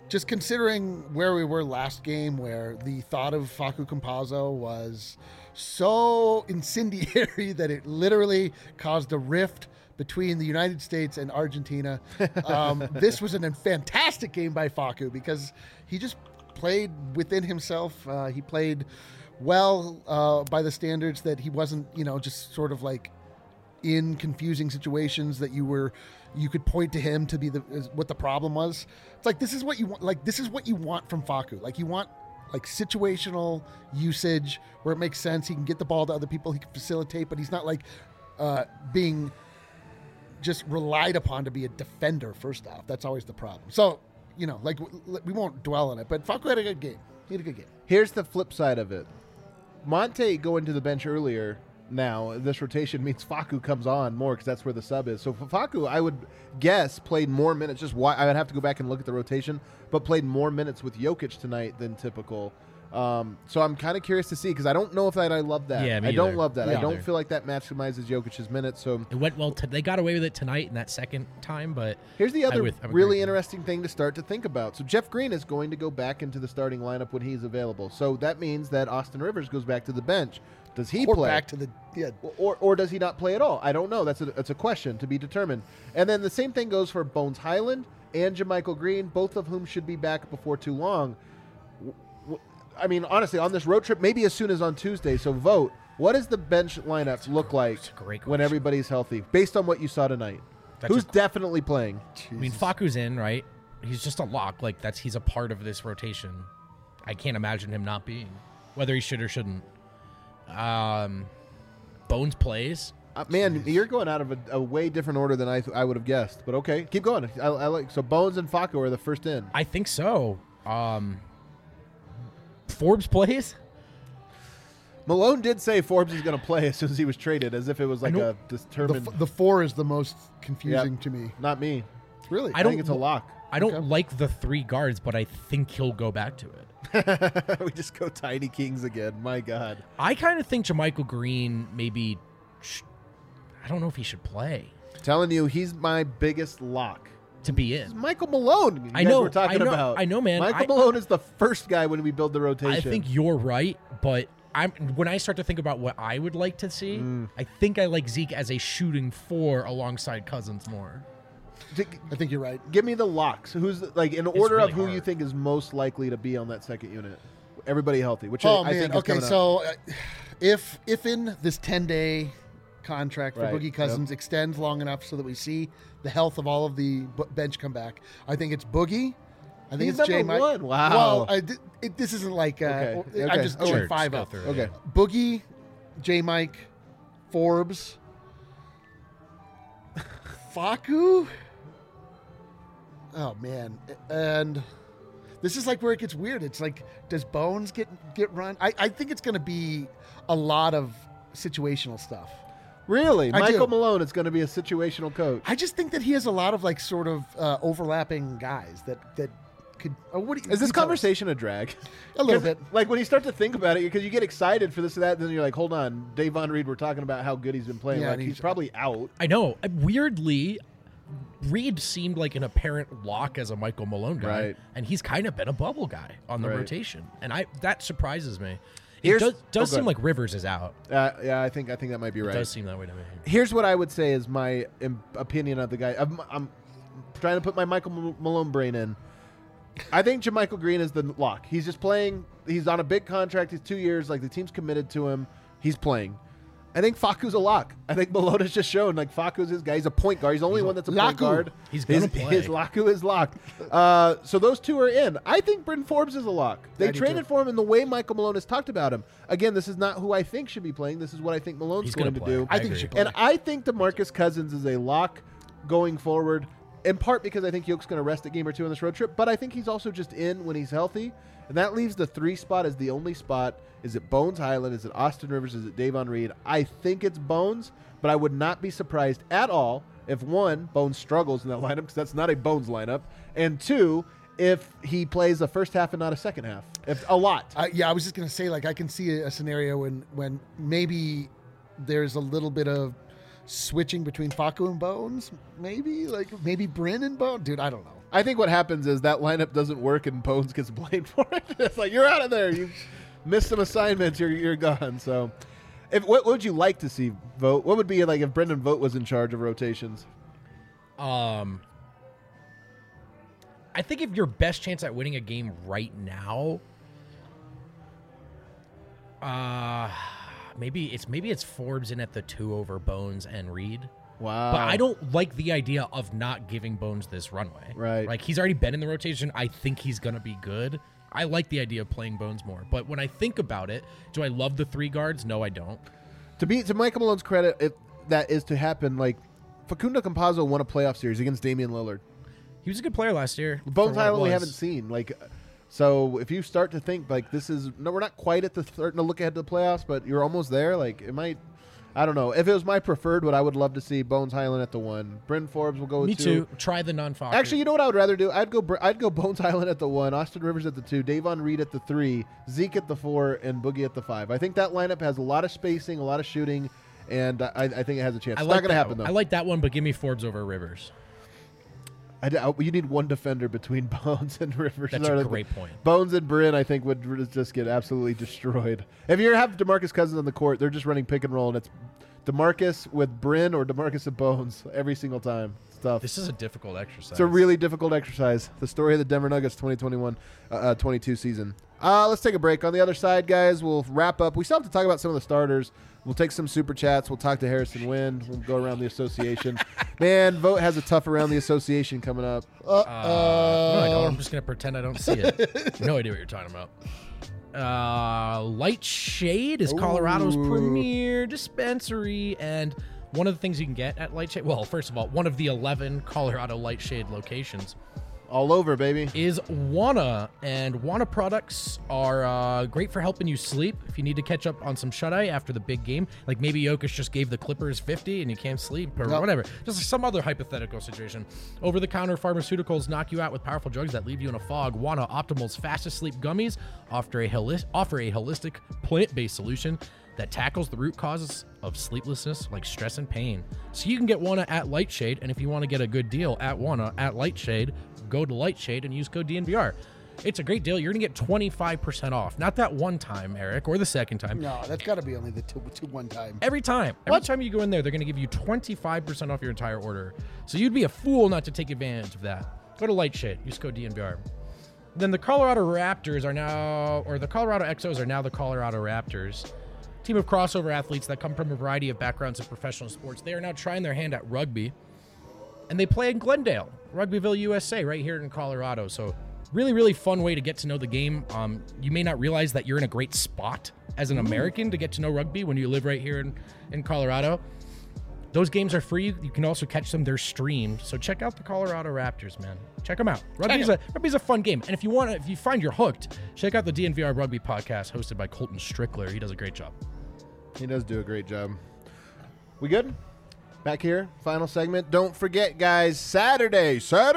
just considering where we were last game, where the thought of Facu Campazzo was so incendiary that it literally caused a rift between the United States and Argentina. This was a fantastic game by Facu because he just played within himself. He played well by the standards that he wasn't, just sort of like in confusing situations that you could point to him to be what the problem was. It's like, this is what you want. Like, this is what you want from Facu. Like, you want like situational usage where it makes sense. He can get the ball to other people. He can facilitate, but he's not like being just relied upon to be a defender first off. That's always the problem. So, we won't dwell on it, but Facu had a good game. He had a good game. Here's the flip side of it. Monte going to the bench earlier. Now, this rotation means Facu comes on more because that's where the sub is. So Facu, I would guess, played more minutes. Just why I would have to go back and look at the rotation, but played more minutes with Jokic tonight than typical. So I'm kind of curious to see because I don't know if I love that. Yeah, me I don't either. love that. Me I don't either. feel like that maximizes Jokic's minutes. So It went well. They got away with it tonight in that second time, but here's the other I'm really agreeing. interesting thing to start to think about. So Jeff Green is going to go back into the starting lineup when he's available. So that means that Austin Rivers goes back to the bench. Does he Or play? back to the Or does he not play at all? I don't know. That's a question to be determined. And then the same thing goes for Bones Highland and JaMychal Green, both of whom should be back before too long. I mean, honestly, on this road trip, maybe as soon as on Tuesday. So vote. What does the bench lineup look like That's a great when question. everybody's healthy, based on what you saw tonight? That's Who's a- definitely playing? I mean, Facu's in, right? He's just a lock. Like, he's a part of this rotation. I can't imagine him not being, whether he should or shouldn't. Bones plays. Man, you're going out of a way different order than I would have guessed. But okay, keep going. I like so Bones and Facu are the first in. I think so. Forbes plays. Malone did say Forbes is going to play as soon as he was traded, as if it was like know- a determined. the four is the most confusing to me. Not me. Really, I I think it's a lock. I don't Okay. like the three guards, but I think he'll go back to it. We just go Tiny Kings again. My God. I kind of think JaMychal Green maybe. I don't know if he should play Telling you, he's my biggest lock. to be It's in. Michael Malone. I know, We're talking I know, about. I know, man. Michael Malone is the first guy when we build the rotation. I think you're right, but when I start to think about what I would like to see, I think I like Zeke as a shooting four alongside Cousins more. I think you're right. Give me the locks. Who's like in order really of who hard. you think is most likely to be on that second unit? Everybody healthy, which Oh I man. think is Okay, coming up. so if in this 10-day contract for Right, Boogie Cousins extends long enough so that we see the health of all of the bench come back, I think it's Boogie. I think He's it's J. number Mike. one. Wow. Well, this isn't like Okay, I'm okay. just Sure, going just 5 go up. through it, Okay. yeah. Boogie, J. Mike, Forbes, Facu. Oh man, and this is like where it gets weird. It's like, does Bones get run? I think it's going to be a lot of situational stuff. Really, I Michael do. Malone is going to be a situational coach. I just think that he has a lot of like sort of overlapping guys that could. What do you, Is this you tell us. conversation a drag? A little 'Cause, bit? Like when you start to think about it, because you get excited for this or that, then you're like, hold on, Davon Reed, we're talking about how good he's been playing. Yeah, Like and he's he's- probably out. I know. Weirdly, Reed seemed like an apparent lock as a Michael Malone guy, Right. and he's kind of been a bubble guy on the Right. rotation, and that surprises me. It Here's- does go seem ahead. like Rivers is out. Yeah, I think that might be It right. does seem that way to me. Here's what I would say is my opinion of the guy. I'm trying to put my Michael Malone brain in. I think JaMychal Green is the lock. He's just playing. He's on a big contract. He's 2 years. Like the team's committed to him. He's playing. I think Facu's a lock. I think Malone has just shown like Facu's his guy. He's a point guard. He's the only one that's a point Laku. guard. He's gonna play. His Laku is locked. So those two are in. I think Bryn Forbes is a lock. They I do traded too. for him in the way Michael Malone has talked about him. Again, this is not who I think should be playing. This is what I think Malone's He's going gonna to play. do. I think he agree. should play. And I think DeMarcus Cousins is a lock going forward, in part because I think Yoke's going to rest a game or two on this road trip, but I think he's also just in when he's healthy. And that leaves the 3 spot as the only spot. Is it Bones Highland? Is it Austin Rivers? Is it Davon Reed? I think it's Bones, but I would not be surprised at all if 1, Bones struggles in that lineup because that's not a Bones lineup, and 2, if he plays the first half and not a second half. If a lot. Yeah, I was just gonna say, like, I can see a scenario when maybe there's a little bit of switching between Facu and Bones. Maybe Bryn and Bones. Dude, I don't know. I think what happens is that lineup doesn't work and Bones gets blamed for it. It's like, you're out of there. You missed some assignments. You're gone. So, what would you like to see, Vogt? What would be like if Brendan Vogt was in charge of rotations? I think if your best chance at winning a game right now, maybe it's Forbes in at the 2 over Bones and Reed. Wow. But I don't like the idea of not giving Bones this runway. Right. Like, he's already been in the rotation. I think he's going to be good. I like the idea of playing Bones more. But when I think about it, do I love the 3 guards? No, I don't. To Michael Malone's credit, if that is to happen, like Facundo Campazzo won a playoff series against Damian Lillard. He was a good player last year. Bones Highland we haven't seen. Like, so if you start to think like we're not quite at the starting to look ahead to the playoffs, but you're almost there. Like, it might. I don't know. If it was my preferred, what I would love to see, Bones Highland at the 1. Bryn Forbes will go with 2. Me too. Try the non-Fokker. Actually, you know what I would rather do? I'd go Bones Highland at the 1, Austin Rivers at the 2, Davon Reed at the 3, Zeke at the 4, and Boogie at the 5. I think that lineup has a lot of spacing, a lot of shooting, and I think it has a chance. It's not going to happen, though. I like that one, but give me Forbes over Rivers. You need one defender between Bones and Rivers. That's a great point. Bones and Bryn, I think, would just get absolutely destroyed. If you have DeMarcus Cousins on the court, they're just running pick and roll, and it's DeMarcus with Bryn or DeMarcus and Bones every single time. It's tough. This is a difficult exercise. It's a really difficult exercise. The story of the Denver Nuggets 2021-22 season. Let's take a break. On the other side, guys, we'll wrap up. We still have to talk about some of the starters. We'll take some super chats. We'll talk to Harrison Wind. We'll go around the association. Man, Vogt has a tough around the association coming up. No, I don't. I'm just going to pretend I don't see it. No idea what you're talking about. Light Shade is Colorado's premier dispensary, and one of the things you can get at Light Shade, well, first of all, one of the 11 Colorado Light Shade locations all over, baby, is Wana, and Wana products are great for helping you sleep if you need to catch up on some shut-eye after the big game. Like maybe Jokic just gave the Clippers 50 and you can't sleep or whatever. Just some other hypothetical situation. Over-the-counter pharmaceuticals knock you out with powerful drugs that leave you in a fog. Wana Optimal's fastest sleep gummies offer a holistic plant-based solution that tackles the root causes of sleeplessness like stress and pain. So you can get Wana at Lightshade, and if you want to get a good deal at Wana at Lightshade, go to Lightshade and use code DNVR. It's a great deal. You're going to get 25% off. Not that one time, Eric, or the second time. No, that's got to be only the two one time. Every time. Every time you go in there, they're going to give you 25% off your entire order. So you'd be a fool not to take advantage of that. Go to Lightshade. Use code DNVR. Then the Colorado Raptors are now, or the Colorado Exos are now the Colorado Raptors. Team of crossover athletes that come from a variety of backgrounds in professional sports. They are now trying their hand at rugby, and they play in Glendale, Rugbyville, USA, right here in Colorado. So really, really fun way to get to know the game. You may not realize that you're in a great spot as an American to get to know rugby when you live right here in Colorado. Those games are free. You can also catch them. They're streamed. So check out the Colorado Raptors, man. Check them out. Rugby's a fun game. And if you find you're hooked, check out the DNVR Rugby podcast hosted by Colton Strickler. He does a great job. He does do a great job. We good? Back here, final segment. Don't forget, guys, Saturday,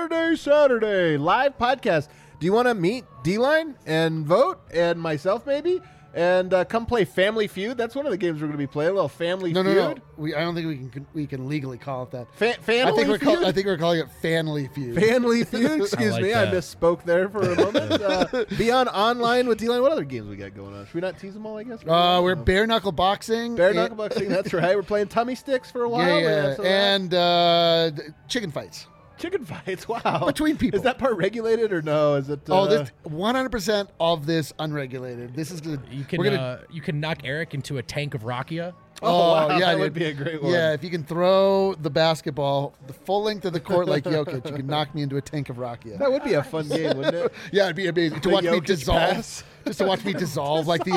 live podcast. Do you want to meet D-Line and Vogt and myself maybe? And come play Family Feud. That's one of the games we're going to be playing. A little Family Feud. No. I don't think we can legally call it that. Family Feud? I think we're calling it Family Feud. Family Feud. Excuse like me. that. I misspoke there for a moment. Be on online with D-Line. What other games we got going on? Should we not tease them all, I guess? We're bare knuckle boxing. Bare knuckle boxing. That's right. We're playing tummy sticks for a while. Yeah. And chicken fights. Chicken fights, wow. Between people. Is that part regulated or no? Is it? This 100% of this unregulated. This is good. You can knock Eric into a tank of Rakia. Wow, yeah, that would be a great one. Yeah, if you can throw the basketball the full length of the court like Jokic, you can knock me into a tank of Rakia. That would be a fun game, wouldn't it? Yeah, it'd be amazing to watch me dissolve. Just to watch me dissolve like the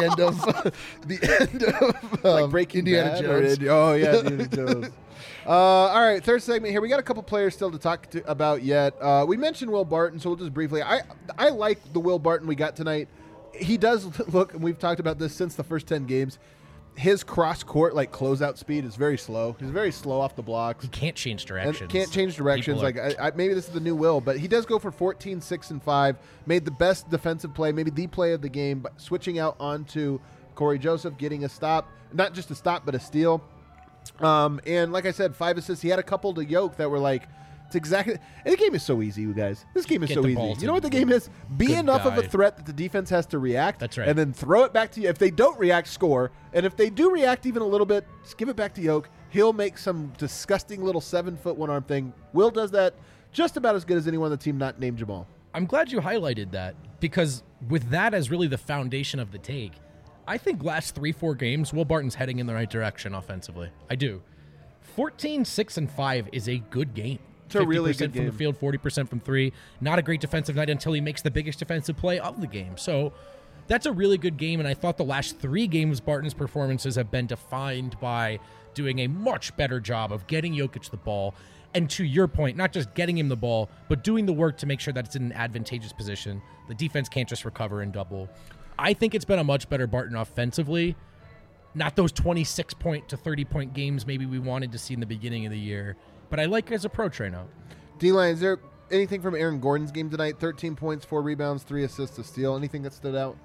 end of like Breaking Indiana Bad Jones. Indiana Jones. All right, third segment here. We got a couple players still to talk about yet. We mentioned Will Barton, so we'll just briefly. I like the Will Barton we got tonight. He does look, and we've talked about this since the first 10 games. His cross-court, closeout speed is very slow. He's very slow off the blocks. He can't change directions. Maybe this is the new Will, but he does go for 14, 6, and 5. Made the best defensive play, maybe the play of the game, but switching out onto Corey Joseph, getting a stop. Not just a stop, but a steal. And like I said, 5 assists. He had a couple to Yoke that were It's exactly. And the game is so easy, you guys. This game is Get so the easy. ball You to know what the game is? Be good enough of a guy. threat that the defense has to react. That's right. And then throw it back to you. If they don't react, score. And if they do react even a little bit, just give it back to Yoke. He'll make some disgusting little 7-foot one-arm thing. Will does that just about as good as anyone on the team not named Jamal. I'm glad you highlighted that because with that as really the foundation of the take, I think last 3-4 games, Will Barton's heading in the right direction offensively. I do. 14, 6, and 5 is a good game. It's a really good from game. the field, 40% from 3. Not a great defensive night until he makes the biggest defensive play of the game. So that's a really good game, and I thought the last 3 games, Barton's performances have been defined by doing a much better job of getting Jokic the ball. And to your point, not just getting him the ball, but doing the work to make sure that it's in an advantageous position. The defense can't just recover and double. I think it's been a much better Barton offensively. Not those 26-point to 30-point games maybe we wanted to see in the beginning of the year. But I like his approach right now. D-Line, is there anything from Aaron Gordon's game tonight? 13 points, 4 rebounds, 3 assists, a steal. Anything that stood out?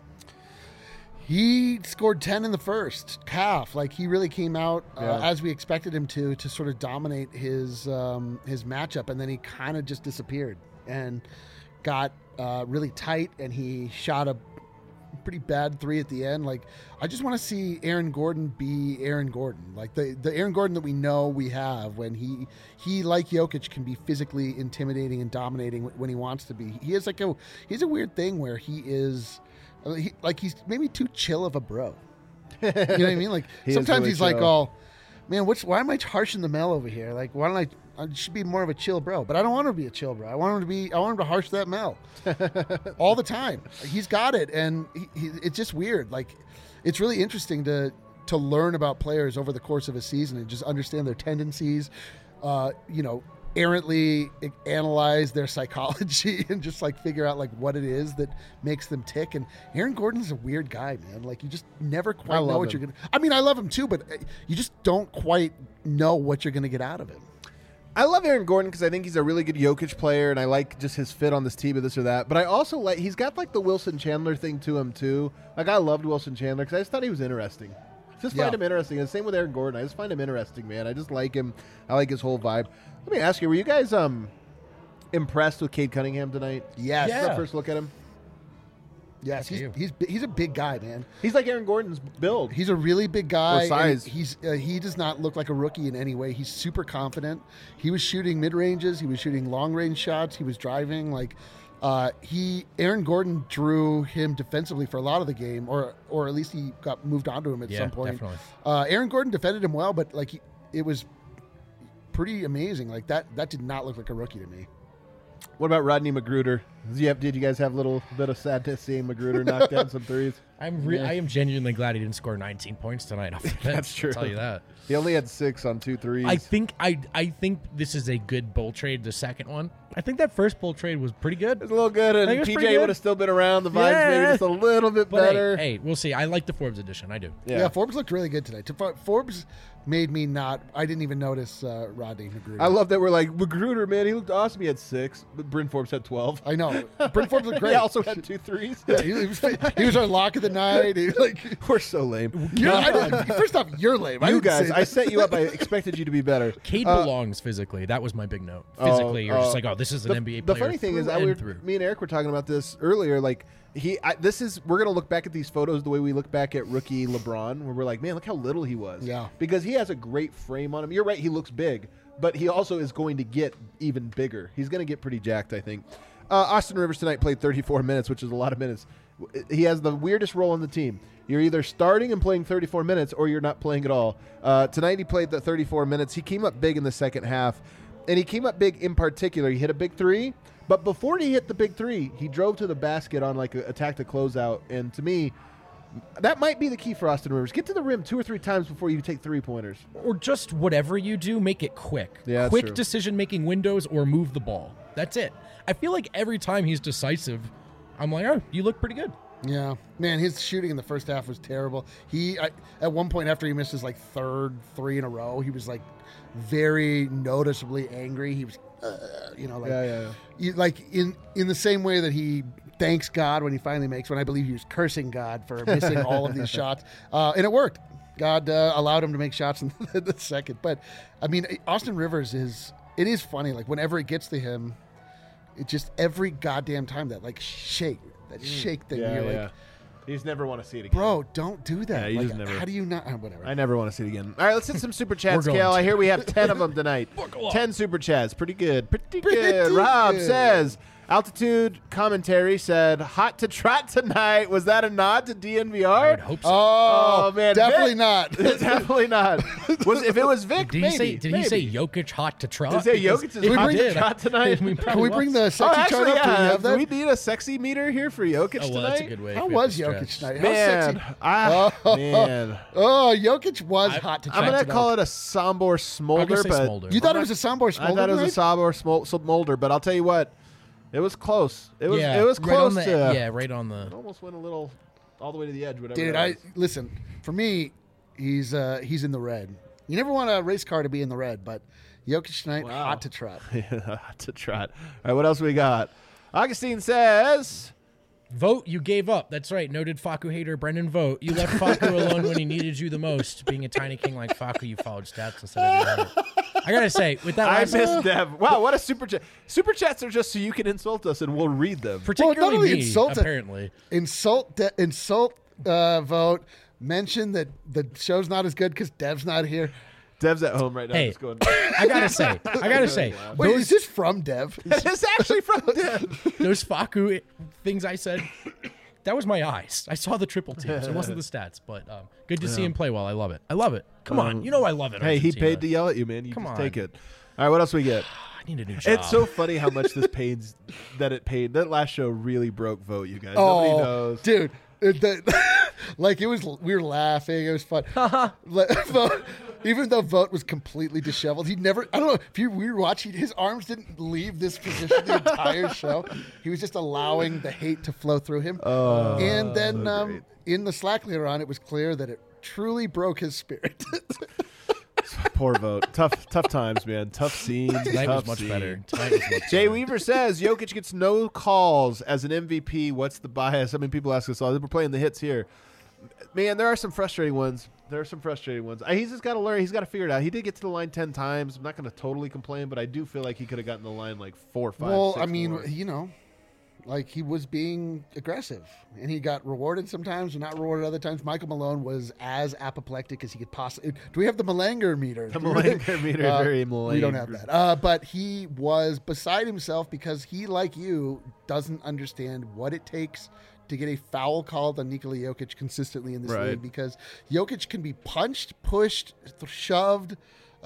He scored 10 in the first half. Like, he really came out as we expected him to sort of dominate his matchup, and then he kind of just disappeared and got really tight, and he shot a pretty bad 3 at the end. Like, I just want to see Aaron Gordon be Aaron Gordon. Like, the Aaron Gordon that we know we have when he like Jokic can be physically intimidating and dominating when he wants to be. He has he's a weird thing where he is he's maybe too chill of a bro. You know what I mean? Like, sometimes really he's like, chill. oh man, why am I harshing the Mel over here? Like, why don't I should be more of a chill bro, but I don't want him to be a chill bro. I want him to harsh that Mel all the time. He's got it, and it's just weird. Like, it's really interesting to learn about players over the course of a season and just understand their tendencies. Errantly analyze their psychology and just like figure out like what it is that makes them tick. And Aaron Gordon's a weird guy, man. Like, you just never quite know what you're gonna. I mean, I love him too, but you just don't quite know what you're gonna get out of him. I love Aaron Gordon because I think he's a really good Jokic player, and I like just his fit on this team or this or that. But I also like he's got like the Wilson Chandler thing to him too. Like, I loved Wilson Chandler because I just thought he was interesting. Just find him interesting. And same with Aaron Gordon. I just find him interesting, man. I just like him. I like his whole vibe. Let me ask you: were you guys impressed with Cade Cunningham tonight? Yes. Is that first look at him? Yes, he's a big guy, man. He's like Aaron Gordon's build. He's a really big guy. Or size. And he does not look like a rookie in any way. He's super confident. He was shooting mid ranges. He was shooting long range shots. He was driving. Like, Aaron Gordon drew him defensively for a lot of the game, or at least he got moved onto him at some point. Definitely. Aaron Gordon defended him well, but like it was pretty amazing. Like that did not look like a rookie to me. What about Rodney Magruder? Did you guys have a little bit of sadness seeing Magruder knock down some threes? I am genuinely glad he didn't score 19 points tonight off the bench. That's true. I'll tell you that. He only had 6 on 2 threes. I think this is a good bull trade, the second one. I think that first bull trade was pretty good. It was a little good, and I think it was pretty PJ good. would have still been around. The vibes Yeah. maybe just a little bit But better. hey, we'll see. I like the Forbes edition. I do. Yeah, Forbes looked really good tonight. Forbes made me not. I didn't even notice Rodney Magruder. I love that we're like, Magruder, man, he looked awesome. He had 6, but Bryn Forbes had 12. I know. Bryn Forbes looked great. He also had 2 threes. Yeah, he was our lock of the night. He, like, We're so lame. first off, you're lame. You didn't guys, say I that. set you up. I expected you to be better. Cade belongs physically. That was my big note. Physically, you're just like, oh, this is an NBA player. The funny thing is, me and Eric were talking about this earlier. Like, we're gonna look back at these photos the way we look back at rookie LeBron, where we're like, man, look how little he was. Yeah. Because he has a great frame on him. You're right, he looks big, but he also is going to get even bigger. He's going to get pretty jacked, I think. Austin Rivers tonight played 34 minutes, which is a lot of minutes. He has the weirdest role on the team. You're either starting and playing 34 minutes, or you're not playing at all. Tonight he played the 34 minutes. He came up big in the second half, and he came up big in particular. He hit a big 3, but before he hit the big 3, he drove to the basket on like a tactic closeout, and to me, that might be the key for Austin Rivers. Get to the rim 2 or 3 times before you take 3-pointers. Or just whatever you do, make it quick. Yeah, that's quick true. decision-making windows or move the ball. That's it. I feel like every time he's decisive, I'm like, oh, you look pretty good. Yeah, man, his shooting in the first half was terrible. At one point after he missed his like 3rd 3 in a row, he was like very noticeably angry. He was, like in the same way that he thanks God when he finally makes one. I believe he was cursing God for missing all of these shots, and it worked. God allowed him to make shots in the second. But I mean, Austin Rivers is it is funny. Like whenever it gets to him, it just every goddamn time that shake thing. Yeah, you're yeah. like, You just never want to see it again. bro, don't do that. Yeah, you like, just never- How do you not? Whatever. I never want to see it again. All right, let's hit some super chats, We're going Kale. I to. hear we have 10 of them tonight. Buckle up. 10 super chats. Pretty good. Pretty Pretty good. Rob good. says, Altitude commentary said, hot to trot tonight. Was that a nod to DNVR? I would hope so. Oh, man, definitely Vic- not. Definitely not. If it was Vic, Did maybe. he say Jokic hot to trot? Did he say Because Jokic is if he hot to did, trot tonight? I mean, Can we bring the Oh, sexy chart actually, up? Do we yeah. have Do that? we need a sexy meter here for Jokic Oh, well, tonight? that's a good way. How for it was to Jokic stretch. tonight? How Man, sexy? man. Oh, Jokic was hot to I'm trot gonna tonight. call it a Sombor Smolder, say but Smolder. You thought it was a Sombor Smolder? I thought it was a tonight? Sombor Smolder, but I'll tell you what, it was close. It was right close on to. the, right on the. It almost went a little all the way to the edge. Whatever. Dude, that was. listen. For me, he's in the red. You never want a race car to be in the red, but Jokic tonight, Wow. hot to trot. Hot to trot. All right, what else we got? Augustine says. Vote, you gave up. That's right. Noted Faku hater Brendan Vote. You left Faku alone when he needed you the most. Being a tiny king like Faku, you followed stats instead of your heart. I gotta say, with that I last miss Dev. Wow, what a super chat. Super chats are just so you can insult us and we'll read them. particularly only me, insult- apparently. Insult vote. Mention that the show's not as good because Dev's not here. Dev's at home right now. Hey. Just going. I gotta say, Wait, those, is this from Dev? It's actually from Dev. those Faku things I said, that was my eyes. I saw the triple teams. It wasn't the stats, but good to see him play well. I love it. I love it. Come on, you know I love it. Hey, he Argentina. paid to yell at you, man. You Come just on. take it. All right, what else we get? I need a new job. It's so funny how much this pains that it paid. That last show really broke Vote, you guys. Nobody knows. Dude. Like it was, we were laughing. It was fun. Vote, even though Vote was completely disheveled, he never. I don't know if you were watching. His arms didn't leave this position the entire show. He was just allowing the hate to flow through him. And then great. in the Slack later on, it was clear that it truly broke his spirit. Poor Vote. Tough times, man. Tough scenes. Tonight tough was much scene. better. Tonight was much Jay better. Weaver says Jokic gets no calls as an MVP. What's the bias? I mean, people ask us all. We're playing the hits here. Man, there are some frustrating ones. He's just got to learn. He's got to figure it out. He did get to the line 10 times. I'm not going to totally complain, but I do feel like he could have gotten the line like 4 or 5. Well, 6 I mean, more. you know, like he was being aggressive, and he got rewarded sometimes and not rewarded other times. Michael Malone was as apoplectic as he could possibly. Do we have the Malanger meter? The Malanger meter, very We don't have Malanger. that. But he was beside himself because he, like you, doesn't understand what it takes to get a foul called on Nikola Jokic consistently in this Right. league, because Jokic can be punched, pushed, shoved,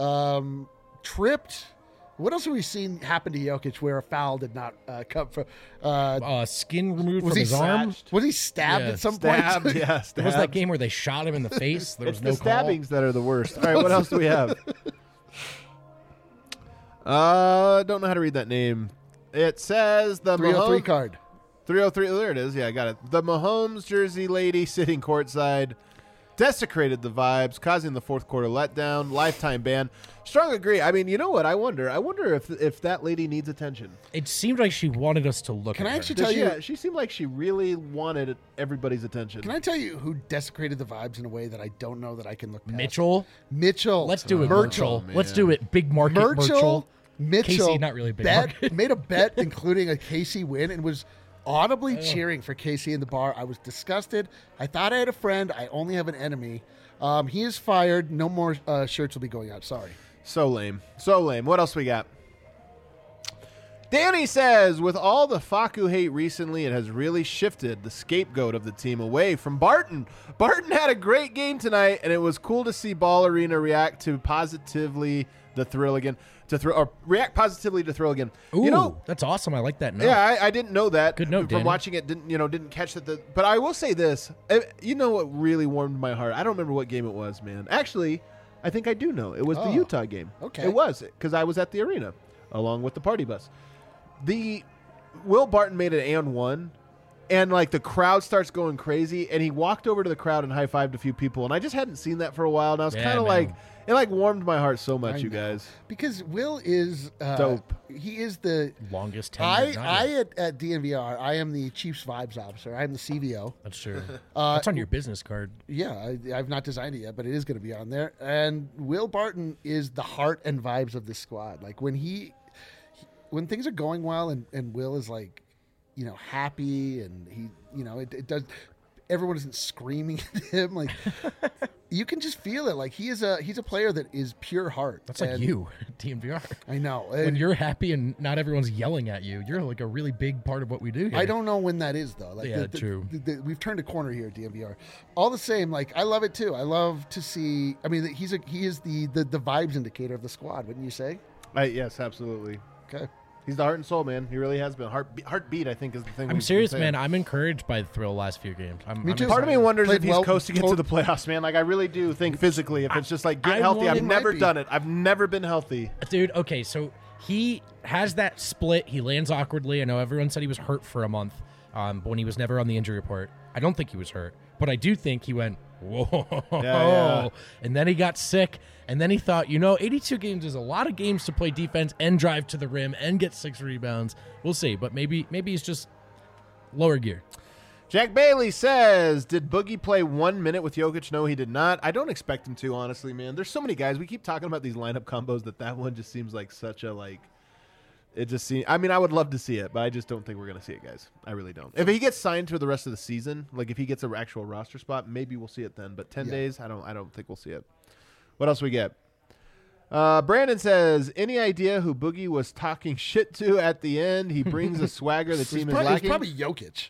tripped. What else have we seen happen to Jokic where a foul did not come from? Skin removed Was from he his arm. Was he stabbed Yeah. at some Stabbed, point? yeah, There stabbed. was that game where they shot him in the face. There was It's no the call. stabbings that are the worst. All right, what else do we have? Don't know how to read that name. It says the 303 Mahomes, card. 303. There it is. Yeah, I got it. The Mahomes jersey lady sitting courtside desecrated the vibes, causing the fourth quarter letdown. Lifetime ban. Strong agree. I mean, you know what? I wonder if that lady needs attention. It seemed like she wanted us to look Can at I her. actually Does tell she, you? she seemed like she really wanted everybody's attention. Can I tell you who desecrated the vibes in a way that I don't know that I can look past? Mitchell? Mitchell. Let's do it, Mitchell. Mitchell. Let's do it. Big market Mitchell. Mitchell. Casey, not really big bet, market. made a bet including a Casey win and was audibly cheering for Casey in the bar. I was disgusted. I thought I had a friend. I only have an enemy. He is fired. No more shirts will be going out. Sorry. So lame. So lame. What else we got? Danny says, with all the Faku hate recently, it has really shifted the scapegoat of the team away from Barton. Barton had a great game tonight, and it was cool to see Ball Arena react positively to Thrill again. React positively to Thrill again. Ooh, You know, that's awesome. I like that note. yeah, I didn't know that. Good note, from Danny. watching it. Didn't catch that. But I will say this. You know what really warmed my heart? I don't remember what game it was, man. Actually, I think I do know. It was the Oh, Utah game. okay. It was because I was at the arena along with the party bus. The Will Barton made an and one, and like the crowd starts going crazy, and he walked over to the crowd and high-fived a few people, and I just hadn't seen that for a while, and I was Yeah, kind of man. like, it like warmed my heart so much, I you know. guys. Because Will is Dope. He is the Longest tenured Niner. at DNVR. I am the Chiefs vibes officer. I am the CVO. That's true. That's on your business card. Yeah, I've not designed it yet, but it is going to be on there. And Will Barton is the heart and vibes of this squad. Like when when things are going well, and Will is like, happy, and he, it does. Everyone isn't screaming at him. Like you can just feel it. Like he's a player that is pure heart. That's like you, DNVR. I know. When you're happy and not everyone's yelling at you, you're like a really big part of what we do here. I don't know when that is though. Like Yeah, true. We've turned a corner here at DNVR. All the same, like I love it too. I love to see. I mean, he is the vibes indicator of the squad, wouldn't you say? Yes, absolutely. Okay. He's the heart and soul, man. He really has been. Heartbeat, I think, is the thing. I'm serious, man. I'm encouraged by the thrill last few games. Me too. Part of me wonders Played if he's well- coasting into the playoffs, man. Like, I really do think physically, if it's just like get I healthy. want- I've It might never be. done it. I've never been healthy. Dude, okay, so he has that split. He lands awkwardly. I know everyone said he was hurt for a month, but when he was never on the injury report. I don't think he was hurt, but I do think he went, whoa. Yeah. And then he got sick, and then he thought, 82 games is a lot of games to play defense and drive to the rim and get 6 rebounds. We'll see, but maybe he's just lower gear. Jack Bailey says, did Boogie play 1 minute with Jokic? No, he did not. I don't expect him to, honestly, man. There's so many guys. We keep talking about these lineup combos that one just seems like such a, like, it just seems, I mean, I would love to see it, but I just don't think we're going to see it, guys. I really don't. If he gets signed for the rest of the season, like if he gets an actual roster spot, maybe we'll see it then. But 10 days, I don't think we'll see it. What else we get? Brandon says, any idea who Boogie was talking shit to at the end? He brings a swagger the team is It's lacking. probably Jokic.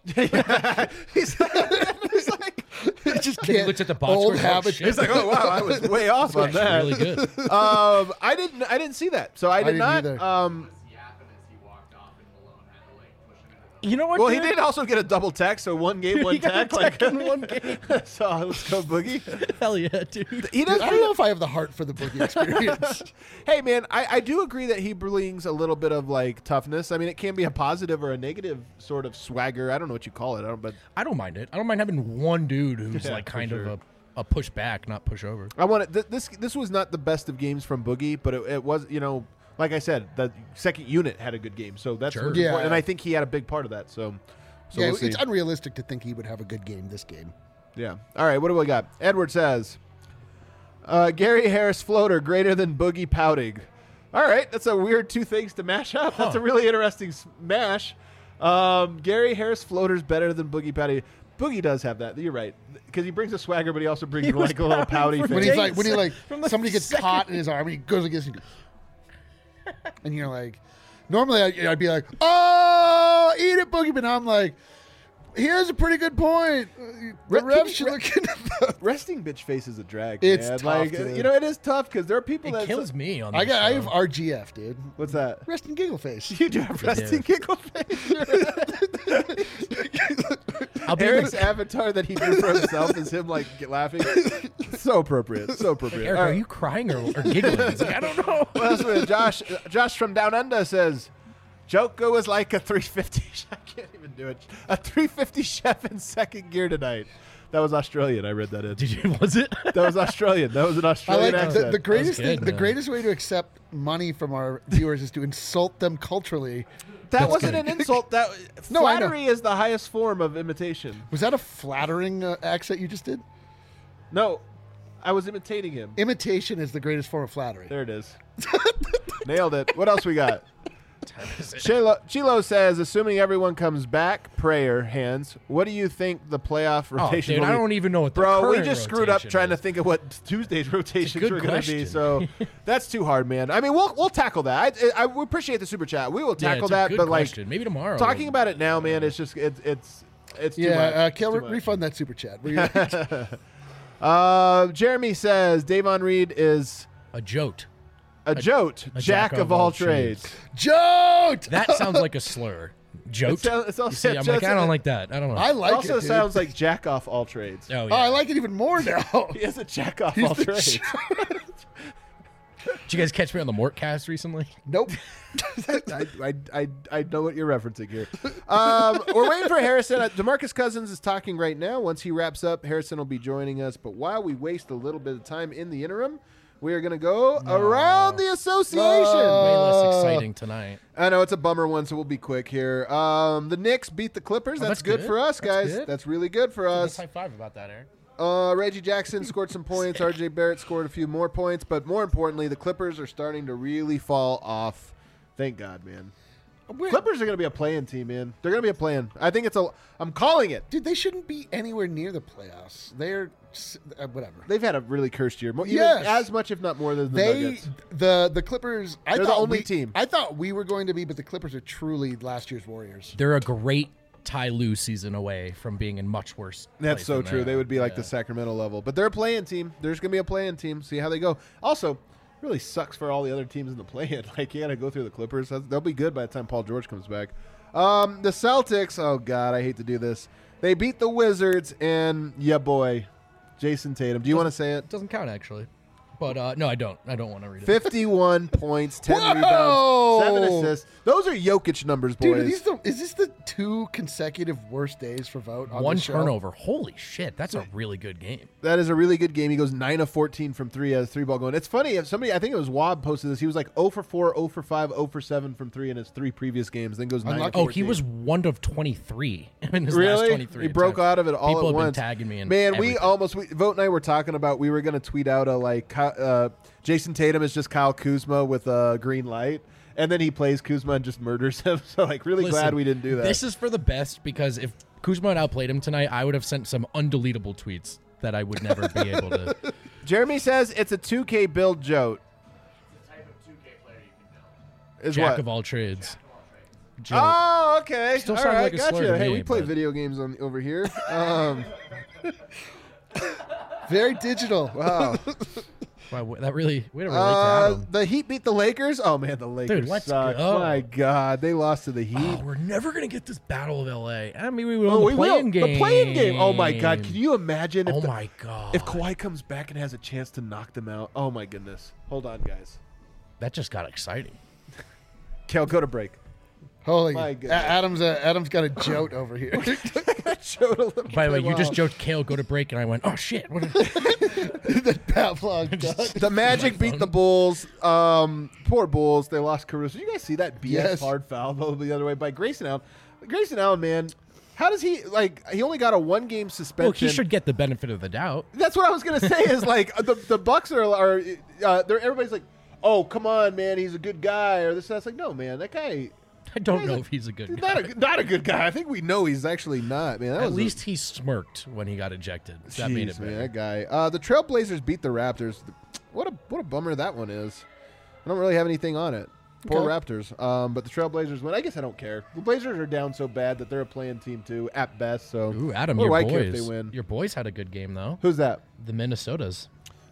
he's like, He just He can't. looked at the box old score, habit. shit. he's like, oh wow, I was way off on that. Really good. I didn't see that, so I did didn't not. either. yapping as he walked off, and Malone had to push him into the You know what? Well, he dude? did also get a double tech, so one game, one He got a tech. Like, tech in one game. so let's go, Boogie. Hell yeah, dude. He does. I don't know if I have the heart for the Boogie experience. Hey, man, I do agree that he brings a little bit of like toughness. I mean, it can be a positive or a negative sort of swagger. I don't know what you call it, but I don't mind it. I don't mind having one dude who's Yeah, like for kind sure. of a push back, not push over. I want it. This was not the best of games from Boogie, but it was, like I said, the second unit had a good game, so that's Sure. what's Yeah. important, and I think he had a big part of that. So Yeah, we'll see. it's unrealistic to think he would have a good game this game. Yeah. All right. What do we got? Edward says, Gary Harris floater greater than Boogie pouting. All right. That's a weird two things to mash up. That's a really interesting mash. Gary Harris floater's better than Boogie pouting. Boogie does have that. You're right. Because he brings a swagger, but he also brings He was like a little pouty pouting for face. When he's like, Days. From the somebody gets second- caught in his arm, and he goes against you, and you're like, normally I'd be like, oh, eat it, Boogie, but now I'm like, here's a pretty good point. The refs should look into that. Resting bitch face is a drag. It's man. tough, like, dude. it is tough because there are people It that kills me on I this have show. RGF, dude. What's that? Rest and giggle face. You do have resting giggle face. I'll be Eric's like, avatar that he drew for himself is him like laughing. So appropriate. So appropriate. Eric, All are right. you crying or giggling? It's like, I don't know. What else we have? Josh from Down Under says, Joko was like a 350. I can't even do it. A 350 chef in second gear tonight. That was Australian. I read that in. Did you? Was it? That was Australian. That was an I Australian like accent. the greatest good, thing. The man. greatest way to accept money from our viewers is to insult them culturally. that wasn't an insult. That No, I know. flattery is the highest form of imitation. Was that a flattering accent you just did? No, I was imitating him. Imitation is the greatest form of flattery. There it is. Nailed it. What else we got? Chilo says, assuming everyone comes back, prayer hands. What do you think the playoff Oh, rotation dude, will I be? don't even know what the Bro, we current just screwed up rotation trying to is. think of what Tuesday's rotations good were going to be. question. So that's too hard, man. I mean, we'll tackle that. We appreciate the super chat. We will Yeah, tackle it's a that, good but question. Maybe tomorrow. talking about it now, man, it's just it's too Yeah, much. Kel, It's too much. refund that super chat. Will you? Jeremy says Davon Reed is a jote. a jote, jack of all trades. Jote! That sounds like a slur. Jote. It's also You see, I'm like, I don't like that. I don't know. I like also it. Dude. sounds like jack off all trades. oh, Oh, yeah. I like it even more now. He is a jack off He's all the trades. Did you guys catch me on the Mortcast recently? Nope. I know what you're referencing here. We're waiting for Harrison. DeMarcus Cousins is talking right now. Once he wraps up, Harrison will be joining us. But while we waste a little bit of time in the interim, we are going to go around the association. Way less exciting tonight. I know it's a bummer one, so we'll be quick here. The Knicks beat the Clippers. That's good for us, guys. Good. That's really good for us. Let's high five about that, Aaron. Reggie Jackson scored some points. RJ Barrett scored a few more points. But more importantly, the Clippers are starting to really fall off. Thank God, man. Clippers are going to be a play-in team, man. They're going to be a play-in. I think I'm calling it. Dude, they shouldn't be anywhere near the playoffs. They're whatever. They've had a really cursed year. Yes. As much, if not more, than the Nuggets. The Clippers. They're the only team. I thought we were going to be, but the Clippers are truly last year's Warriors. They're a great Ty Lue season away from being in much worse. That's place so than true. They would be like Yeah. the Sacramento level. But they're a play-in team. There's going to be a play-in team. See how they go. Also, really sucks for all the other teams in the play-in. Like, you got to go through the Clippers. They'll be good by the time Paul George comes back. The Celtics, oh, God, I hate to do this. They beat the Wizards, and, yeah, boy, Jason Tatum. Do you want to say it? Doesn't count actually, but no, I don't. I don't want to read it. 51 points, 10 Whoa! rebounds, 7 assists. Those are Jokic numbers, boys. Dude, is this the 2 consecutive worst days for Vogt on One this show? turnover. Holy shit, that's a really good game. That is a really good game. He goes 9 of 14 from 3 as 3-ball going. It's funny, if somebody, I think it was Wob posted this, he was like 0 for 4, 0 for 5, 0 for 7 from 3 in his 3 previous games, then goes 9 of Unlucky. 14. Oh, he was 1 of 23 in his Really? last 23. He broke attempts. out of it all People at have once. been tagging me in. Man, everything. Vogt and I were talking about, we were going to tweet out Jason Tatum is just Kyle Kuzma with a green light, and then he plays Kuzma and just murders him. So, like, really Listen, glad we didn't do that. This is for the best because if Kuzma had outplayed him tonight, I would have sent some undeletable tweets that I would never be able to. Jeremy says it's a 2K build, Joe. The type of 2K player you can build. Is Jack what? of all trades. Joe. Oh, okay. Still All sounds right, like a slur gotcha. to Hey, me, we play but- video games over here. Very digital. Wow. Wow, that really way to relate to Adam. The Heat beat the Lakers. Oh man, the Lakers let's suck. go. My God, they lost to the Heat. Oh, we're never gonna get this Battle of LA. I mean, we will. Oh, the we will. play-in game. The playing game. Oh my God, can you imagine? If Oh my god. If Kawhi comes back and has a chance to knock them out. Oh my goodness. Hold on, guys. That just got exciting. Kel, go to break. Holy, My goodness. Adam's got a jolt over here. Showed a little By the way, you bit just off. joked Kale go to break, and I went, oh shit. What The Pavlov duck. The Magic beat the Bulls. Poor Bulls. They lost Caruso. You guys see that BS Yes. hard foul though the other way by Grayson Allen. Grayson Allen, man, how does he he only got a 1-game suspension? well, he should get the benefit of the doubt. That's what I was gonna say. Is like the Bucks are they're everybody's like, oh come on man, he's a good guy or this. That's like no man, that guy. I don't He's know a- if he's a good He's guy. not a good guy. I think we know he's actually not, man. That At was least he smirked when he got ejected. That made it Jeez, man, better. that guy. The Trailblazers beat the Raptors. What a bummer that one is. I don't really have anything on it. Poor Okay. Raptors. But the Trailblazers win. I guess I don't care. The Blazers are down so bad that they're a playing team too, at best. So Ooh, Adam, what do your I boys. care if they win? Your boys had a good game though. Who's that? The Minnesotas.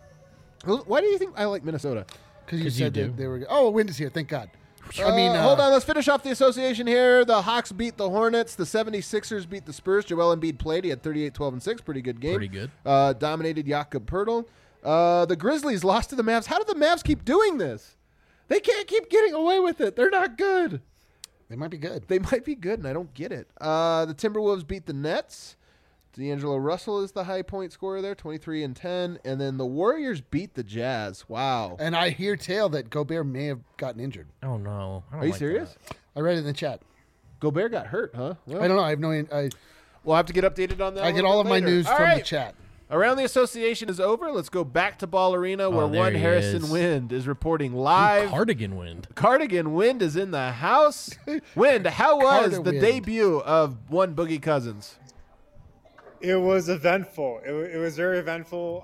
Why do you think I like Minnesota? Because you 'Cause you said do. that they were. Oh, a wind is here. Thank God. I mean, hold on. Let's finish off the association here. The Hawks beat the Hornets. The 76ers beat the Spurs. Joel Embiid played. He had 38, 12, and 6. Pretty good game. Pretty good. Dominated Jakob Pertl. The Grizzlies lost to the Mavs. How do the Mavs keep doing this? They can't keep getting away with it. They're not good. They might be good. They might be good, and I don't get it. The Timberwolves beat the Nets. D'Angelo Russell is the high point scorer there, 23 and 10. And then the Warriors beat the Jazz. Wow. And I hear tale that Gobert may have gotten injured. Oh no. I don't Are you like serious? that. I read it in the chat. Gobert got hurt, huh? Well, I don't know. I have no. we'll have to get updated on that. I a get little all bit of my later. news All from right. the chat. Around the association is over. Let's go back to Ball Arena where there one he Harrison is. Wind is reporting live. Cardigan wind. Cardigan Wind is in the house. Wind, how was Carter the Wind. debut of one Boogie Cousins? It was eventful. It was very eventful.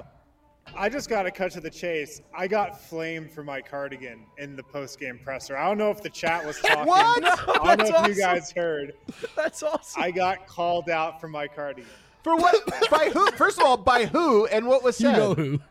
I just got to cut to the chase. I got flamed for my cardigan in the post-game presser. I don't know if the chat was talking. What? I don't know if you guys heard. That's awesome. I got called out for my cardigan. For what? By who? First of all, by who and what was You said? know who.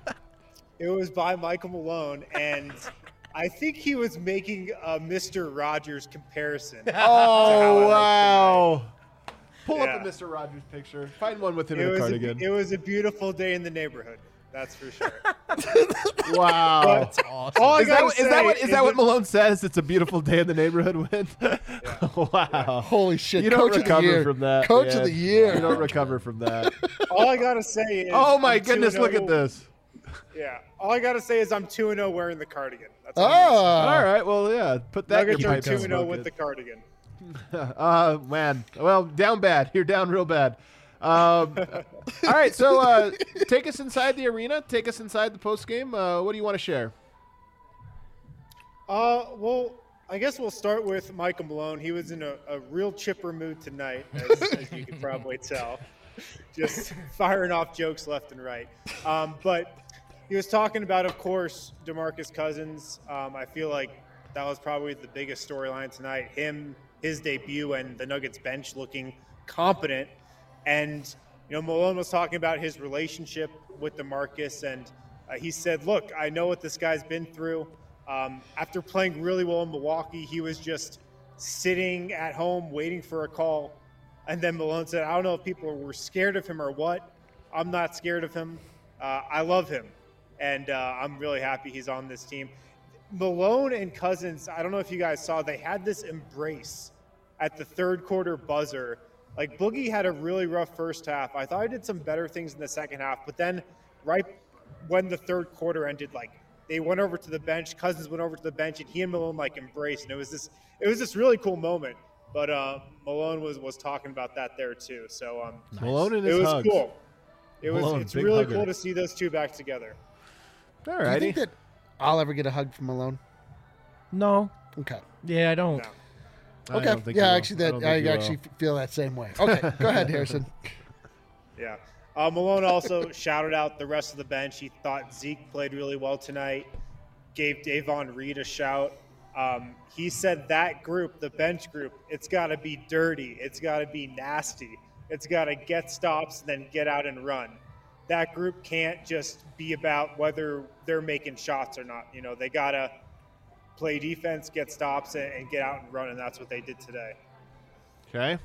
It was by Michael Malone, and I think he was making a Mr. Rogers comparison. Oh, wow. Pull Yeah. up a Mr. Rogers picture. Find one with him It in a was cardigan. it was a beautiful day in the neighborhood. That's for sure. Wow. But Awesome. all I Is gotta that, say is that what Malone says? It's a beautiful day in the neighborhood with? Wow. Holy shit! You don't Coach of the recover year. from that. Coach man. of the year. You don't recover from that. All I gotta say is, Oh my I'm goodness! 2-0. Look at this. Yeah. All I gotta say is I'm 2-0 wearing the cardigan. That's all I'm gonna say. All Oh, right. Well, yeah. Put that in Nuggets your are pipe and 2-0 smoke with it. the cardigan. Man. Well, down bad. You're down real bad. All right. So take us inside the arena. Take us inside the post game. What do you want to share? Well, I guess we'll start with Michael Malone. He was in a real chipper mood tonight, as you can probably tell. Just firing off jokes left and right. But he was talking about, of course, DeMarcus Cousins. I feel like that was probably the biggest storyline tonight. His debut, and the Nuggets bench looking competent. And, Malone was talking about his relationship with DeMarcus, and he said, look, I know what this guy's been through. After playing really well in Milwaukee, he was just sitting at home waiting for a call. And then Malone said, I don't know if people were scared of him or what. I'm not scared of him. I love him. And I'm really happy he's on this team. Malone and Cousins, I don't know if you guys saw, they had this embrace at the third quarter buzzer. Like, Boogie had a really rough first half. I thought I did some better things in the second half. But then right when the third quarter ended, they went over to the bench. Cousins went over to the bench, and he and Malone embraced. And it was this really cool moment. But Malone was talking about that there too. So Malone and it his was hugs. cool. Malone, It's big really hugger. cool to see those two back together. All do you righty. think that I'll ever get a hug from Malone? No. Okay. Yeah, I don't. No. I Okay. don't think you Yeah, will. actually, I don't I think you will. actually feel that same way. Okay, go ahead, Harrison. Yeah. Malone also shouted out the rest of the bench. He thought Zeke played really well tonight. Gave Davon Reed a shout. He said that group, the bench group, it's got to be dirty. It's got to be nasty. It's got to get stops and then get out and run. That group can't just be about whether they're making shots or not. They got to play defense, get stops, and get out and run, and that's what they did today. Okay.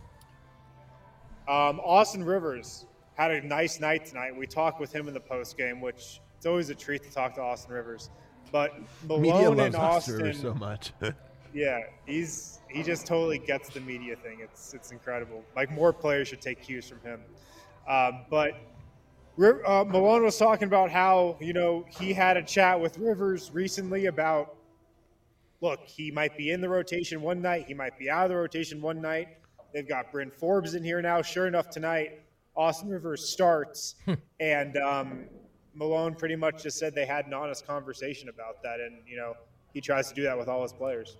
Austin Rivers had a nice night tonight. We talked with him in the post game, which it's always a treat to talk to Austin Rivers. But Media Malone loves and Austin Austin, Rivers so much. yeah, he just totally gets the media thing. It's incredible. More players should take cues from him. But Malone was talking about how he had a chat with Rivers recently about, look, he might be in the rotation one night, he might be out of the rotation one night. They've got Bryn Forbes in here now. Sure enough, tonight Austin Rivers starts, and Malone pretty much just said they had an honest conversation about that, and he tries to do that with all his players.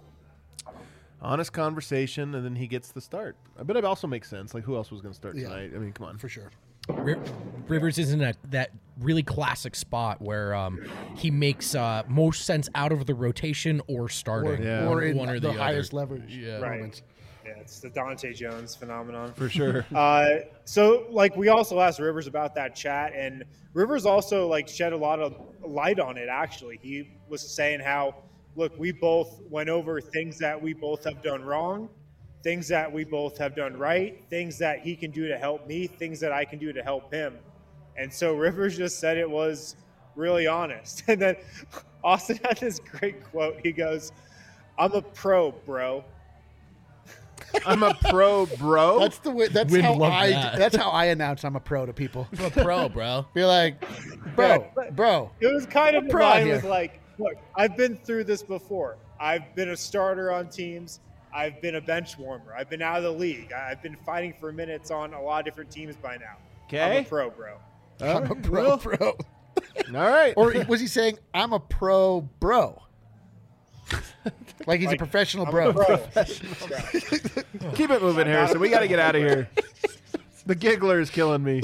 Honest conversation, and then he gets the start. But it also makes sense. Who else was going to start Yeah. tonight? I mean, come on. For sure. Rivers is in that really classic spot where he makes most sense out of the rotation or starting. Yeah. Or in one or the the highest other. leverage Yeah. Right. moments. Yeah, it's the Dante Jones phenomenon. For sure. So we also asked Rivers about that chat, and Rivers also shed a lot of light on it. Actually, he was saying how, look, we both went over things that we both have done wrong, things that we both have done right, things that he can do to help me, things that I can do to help him. And so Rivers just said it was really honest. And then Austin had this great quote. He goes, "I'm a pro, bro." I'm a pro, bro. That's the way. That's We'd how love I. that. That's how I announce I'm a pro to people. I'm a pro, bro. Be like, bro. It was kind of proud mine here. was look, I've been through this before. I've been a starter on teams. I've been a bench warmer. I've been out of the league. I've been fighting for minutes on a lot of different teams by now. I'm Okay. a pro, bro. I'm a pro. All right. Or was he saying I'm a pro, bro? Like he's a professional I'm bro. a pro. Keep it moving, Harrison. We got to get out of here. The giggler is killing me.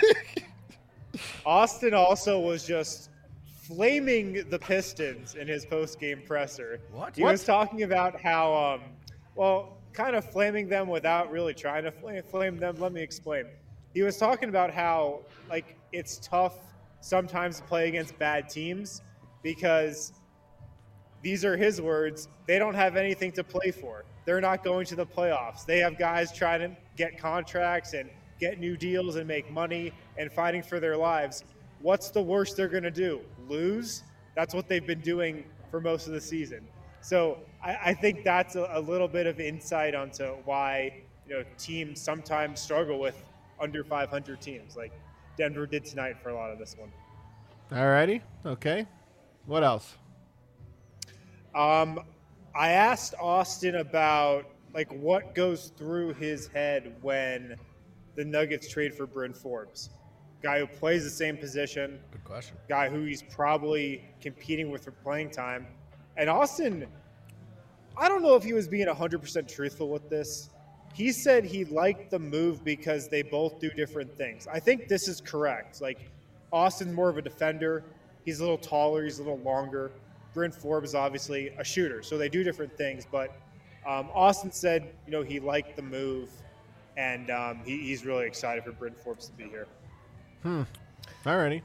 Austin also was just flaming the Pistons in his post-game presser. What? He was talking about how, kind of flaming them without really trying to flame them. Let me explain. He was talking about how, it's tough sometimes to play against bad teams because these are his words. They don't have anything to play for. They're not going to the playoffs. They have guys trying to get contracts and get new deals and make money and fighting for their lives. what's the worst they're going to do? Lose? That's what they've been doing for most of the season. So I think that's a little bit of insight onto why teams sometimes struggle with under 500 teams, like Denver did tonight for a lot of this one. All righty. Okay. What else? I asked Austin about what goes through his head when the Nuggets trade for Bryn Forbes, guy who plays the same position. Good question. Guy who he's probably competing with for playing time. And Austin, I don't know if he was being 100% truthful with this. He said he liked the move because they both do different things. I think this is correct. Austin's more of a defender. He's a little taller. He's a little longer. Bryn Forbes is obviously a shooter. So they do different things. But Austin said, he liked the move. And he's really excited for Bryn Forbes to be here. All righty.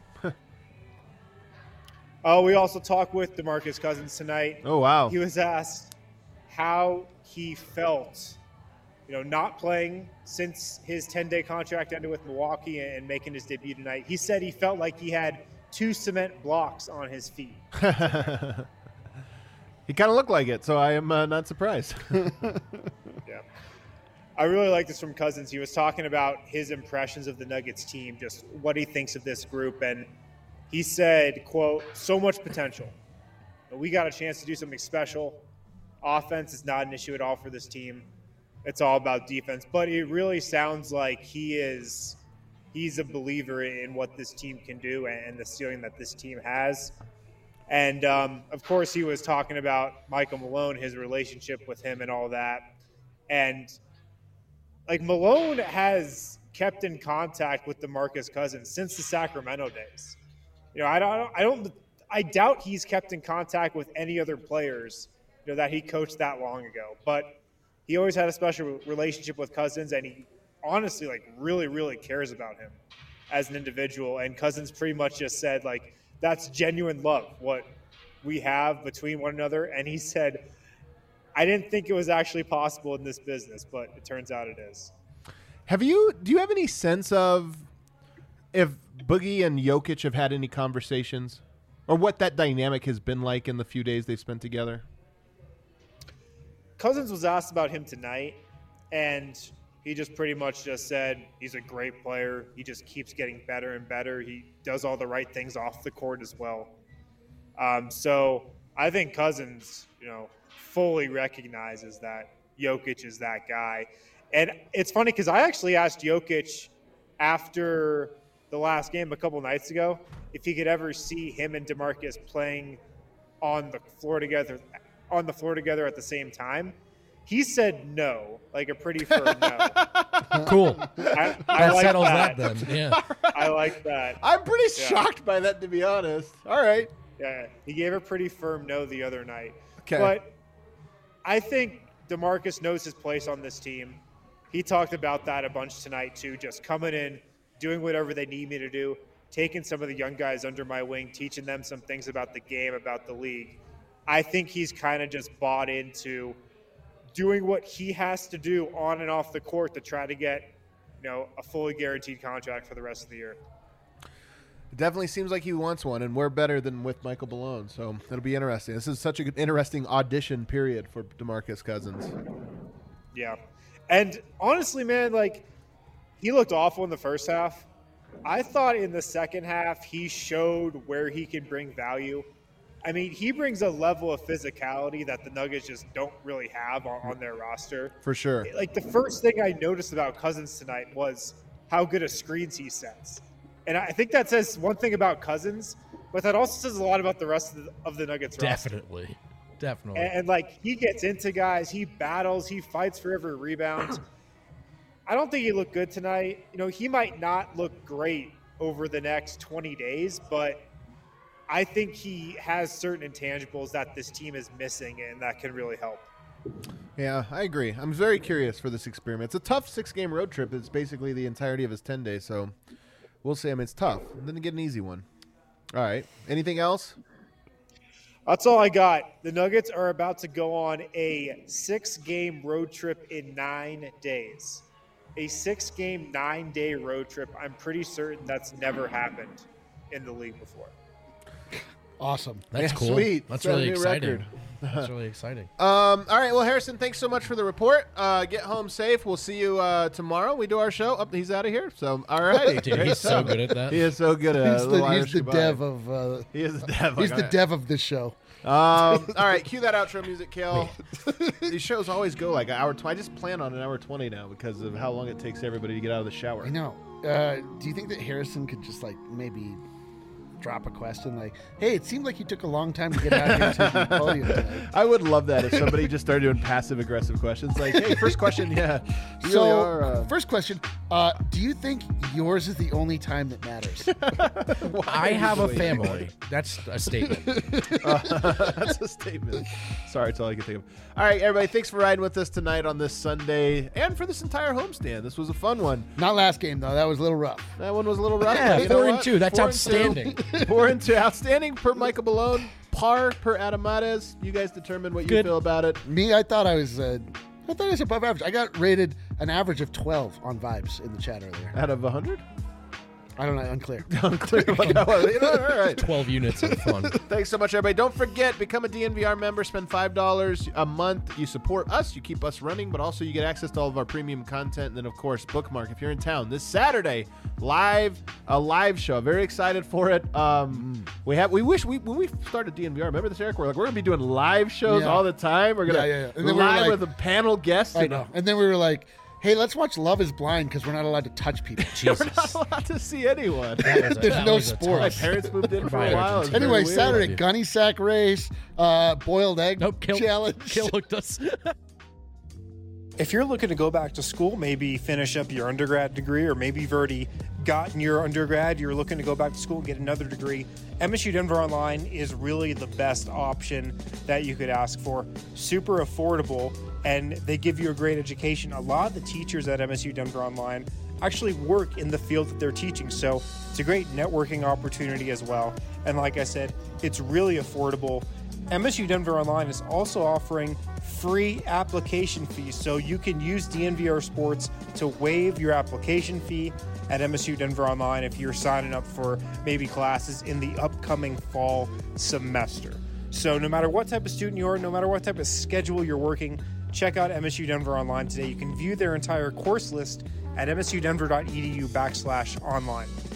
We also talked with DeMarcus Cousins tonight. Oh, wow. He was asked how he felt, not playing since his 10-day contract ended with Milwaukee and making his debut tonight. He said he felt like he had 2 cement blocks on his feet. He kind of looked like it, so I am not surprised. Yeah. I really like this from Cousins. He was talking about his impressions of the Nuggets team, just what he thinks of this group. And he said, quote, so much potential. We got a chance to do something special. Offense is not an issue at all for this team. It's all about defense. But it really sounds like he's a believer in what this team can do and the ceiling that this team has. And, of course, he was talking about Michael Malone, his relationship with him and all that. And, Malone has kept in contact with DeMarcus Cousins since the Sacramento days. I doubt he's kept in contact with any other players, that he coached that long ago. But he always had a special relationship with Cousins, and he honestly, really, really cares about him as an individual. And Cousins pretty much just said, that's genuine love, what we have between one another. And he said, I didn't think it was actually possible in this business, but it turns out it is. Do you have any sense of if Boogie and Jokic have had any conversations or what that dynamic has been like in the few days they've spent together? Cousins was asked about him tonight, and he just pretty much just said he's a great player. He just keeps getting better and better. He does all the right things off the court as well. So I think Cousins, fully recognizes that Jokic is that guy. And it's funny because I actually asked Jokic after the last game a couple nights ago if he could ever see him and DeMarcus playing on the floor together at the same time. He said no, a pretty firm no. Cool. I That like settles that. that then. Yeah. I like that. I'm pretty shocked by that, to be honest. All right. Yeah, he gave a pretty firm no the other night. Okay. But I think DeMarcus knows his place on this team. He talked about that a bunch tonight too, just coming in, doing whatever they need me to do, taking some of the young guys under my wing, teaching them some things about the game, about the league. I think he's kind of just bought into doing what he has to do on and off the court to try to get, a fully guaranteed contract for the rest of the year. It definitely seems like he wants one, and we're better than with Michael Malone, so it'll be interesting. This is such an interesting audition period for DeMarcus Cousins. Yeah. And honestly, man, he looked awful in the first half. I thought in the second half he showed where he can bring value. I mean, he brings a level of physicality that the Nuggets just don't really have on their roster. For sure. The first thing I noticed about Cousins tonight was how good of screens he sets. And I think that says one thing about Cousins, but that also says a lot about the rest of the Nuggets roster. Definitely. And he gets into guys, he battles, he fights for every rebound. I don't think he looked good tonight. He might not look great over the next 20 days, but I think he has certain intangibles that this team is missing and that can really help. Yeah, I agree. I'm very curious for this experiment. It's a tough 6-game road trip. It's basically the entirety of his 10 days, so we'll see. It's tough. Didn't get an easy one. All right. Anything else? That's all I got. The Nuggets are about to go on a 6-game road trip in 9 days. A 6-game, 9-day road trip. I'm pretty certain that's never happened in the league before. Awesome. That's Yeah, cool. sweet. That's Set a really new exciting. record. That's really exciting. All right. Well, Harrison, thanks so much for the report. Get home safe. We'll see you tomorrow. We do our show. Oh, he's out of here. So, all righty. Dude, he's so good at that. He is so good at He's the dev of. He is the dev. He's the dev of this show. All right, cue that outro music, Kale. These shows always go like an hour. I just plan on an hour 20 now because of how long it takes everybody to get out of the shower. I know. Do you think that Harrison could just like maybe drop a question like, "Hey, it seemed like you took a long time to get out here to the podium tonight." I would love that if somebody just started doing passive aggressive questions like, "Hey, first question, yeah." You So, really are, first question: do you think yours is the only time that matters? I have a family. That's a statement. That's a statement. Sorry, that's all I can think of. All right, everybody, thanks for riding with us tonight on this Sunday and for this entire homestand. This was a fun one. Not last game though. That was a little rough. That one was a little rough. Yeah, but you know 4 and what? 2. That's 4 and 2. outstanding. 4 and 2. Outstanding per Michael Malone. Par per Adam Mares. You guys determine what you Good. feel about it. Me, I thought I was above average. I got rated an average of 12 on vibes in the chat earlier. Out of 100? I don't know. Unclear. Unclear what that was. You know, all right. 12 units of fun. Thanks so much, everybody. Don't forget, become a DNVR member. Spend $5 a month. You support us. You keep us running, but also you get access to all of our premium content. And then, of course, Bookmark. If you're in town this Saturday, a live show. Very excited for it. When we started DNVR, remember this, Eric? We're like, we're gonna be doing live shows Yeah. all the time. We're gonna Yeah. And then we were live like- with a panel guest. I know. And then we were like, "Hey, let's watch Love Is Blind because we're not allowed to touch people." We're not allowed to see anyone. There's no was a sport. My tough- parents moved in for a Right, while. It was very Anyway, weird. Saturday, gunny sack race, boiled egg Nope, Kill challenge. hooked us. If you're looking to go back to school, maybe finish up your undergrad degree, or maybe you've already gotten your undergrad, you're looking to go back to school and get another degree, MSU Denver Online is really the best option that you could ask for. Super affordable, and they give you a great education. A lot of the teachers at MSU Denver Online actually work in the field that they're teaching, so it's a great networking opportunity as well. And like I said, it's really affordable. MSU Denver Online is also offering free application fees, so you can use DNVR Sports to waive your application fee at MSU Denver Online if you're signing up for maybe classes in the upcoming fall semester. So no matter what type of student you are, no matter what type of schedule you're working, check out MSU Denver Online today. You can view their entire course list at msudenver.edu/online.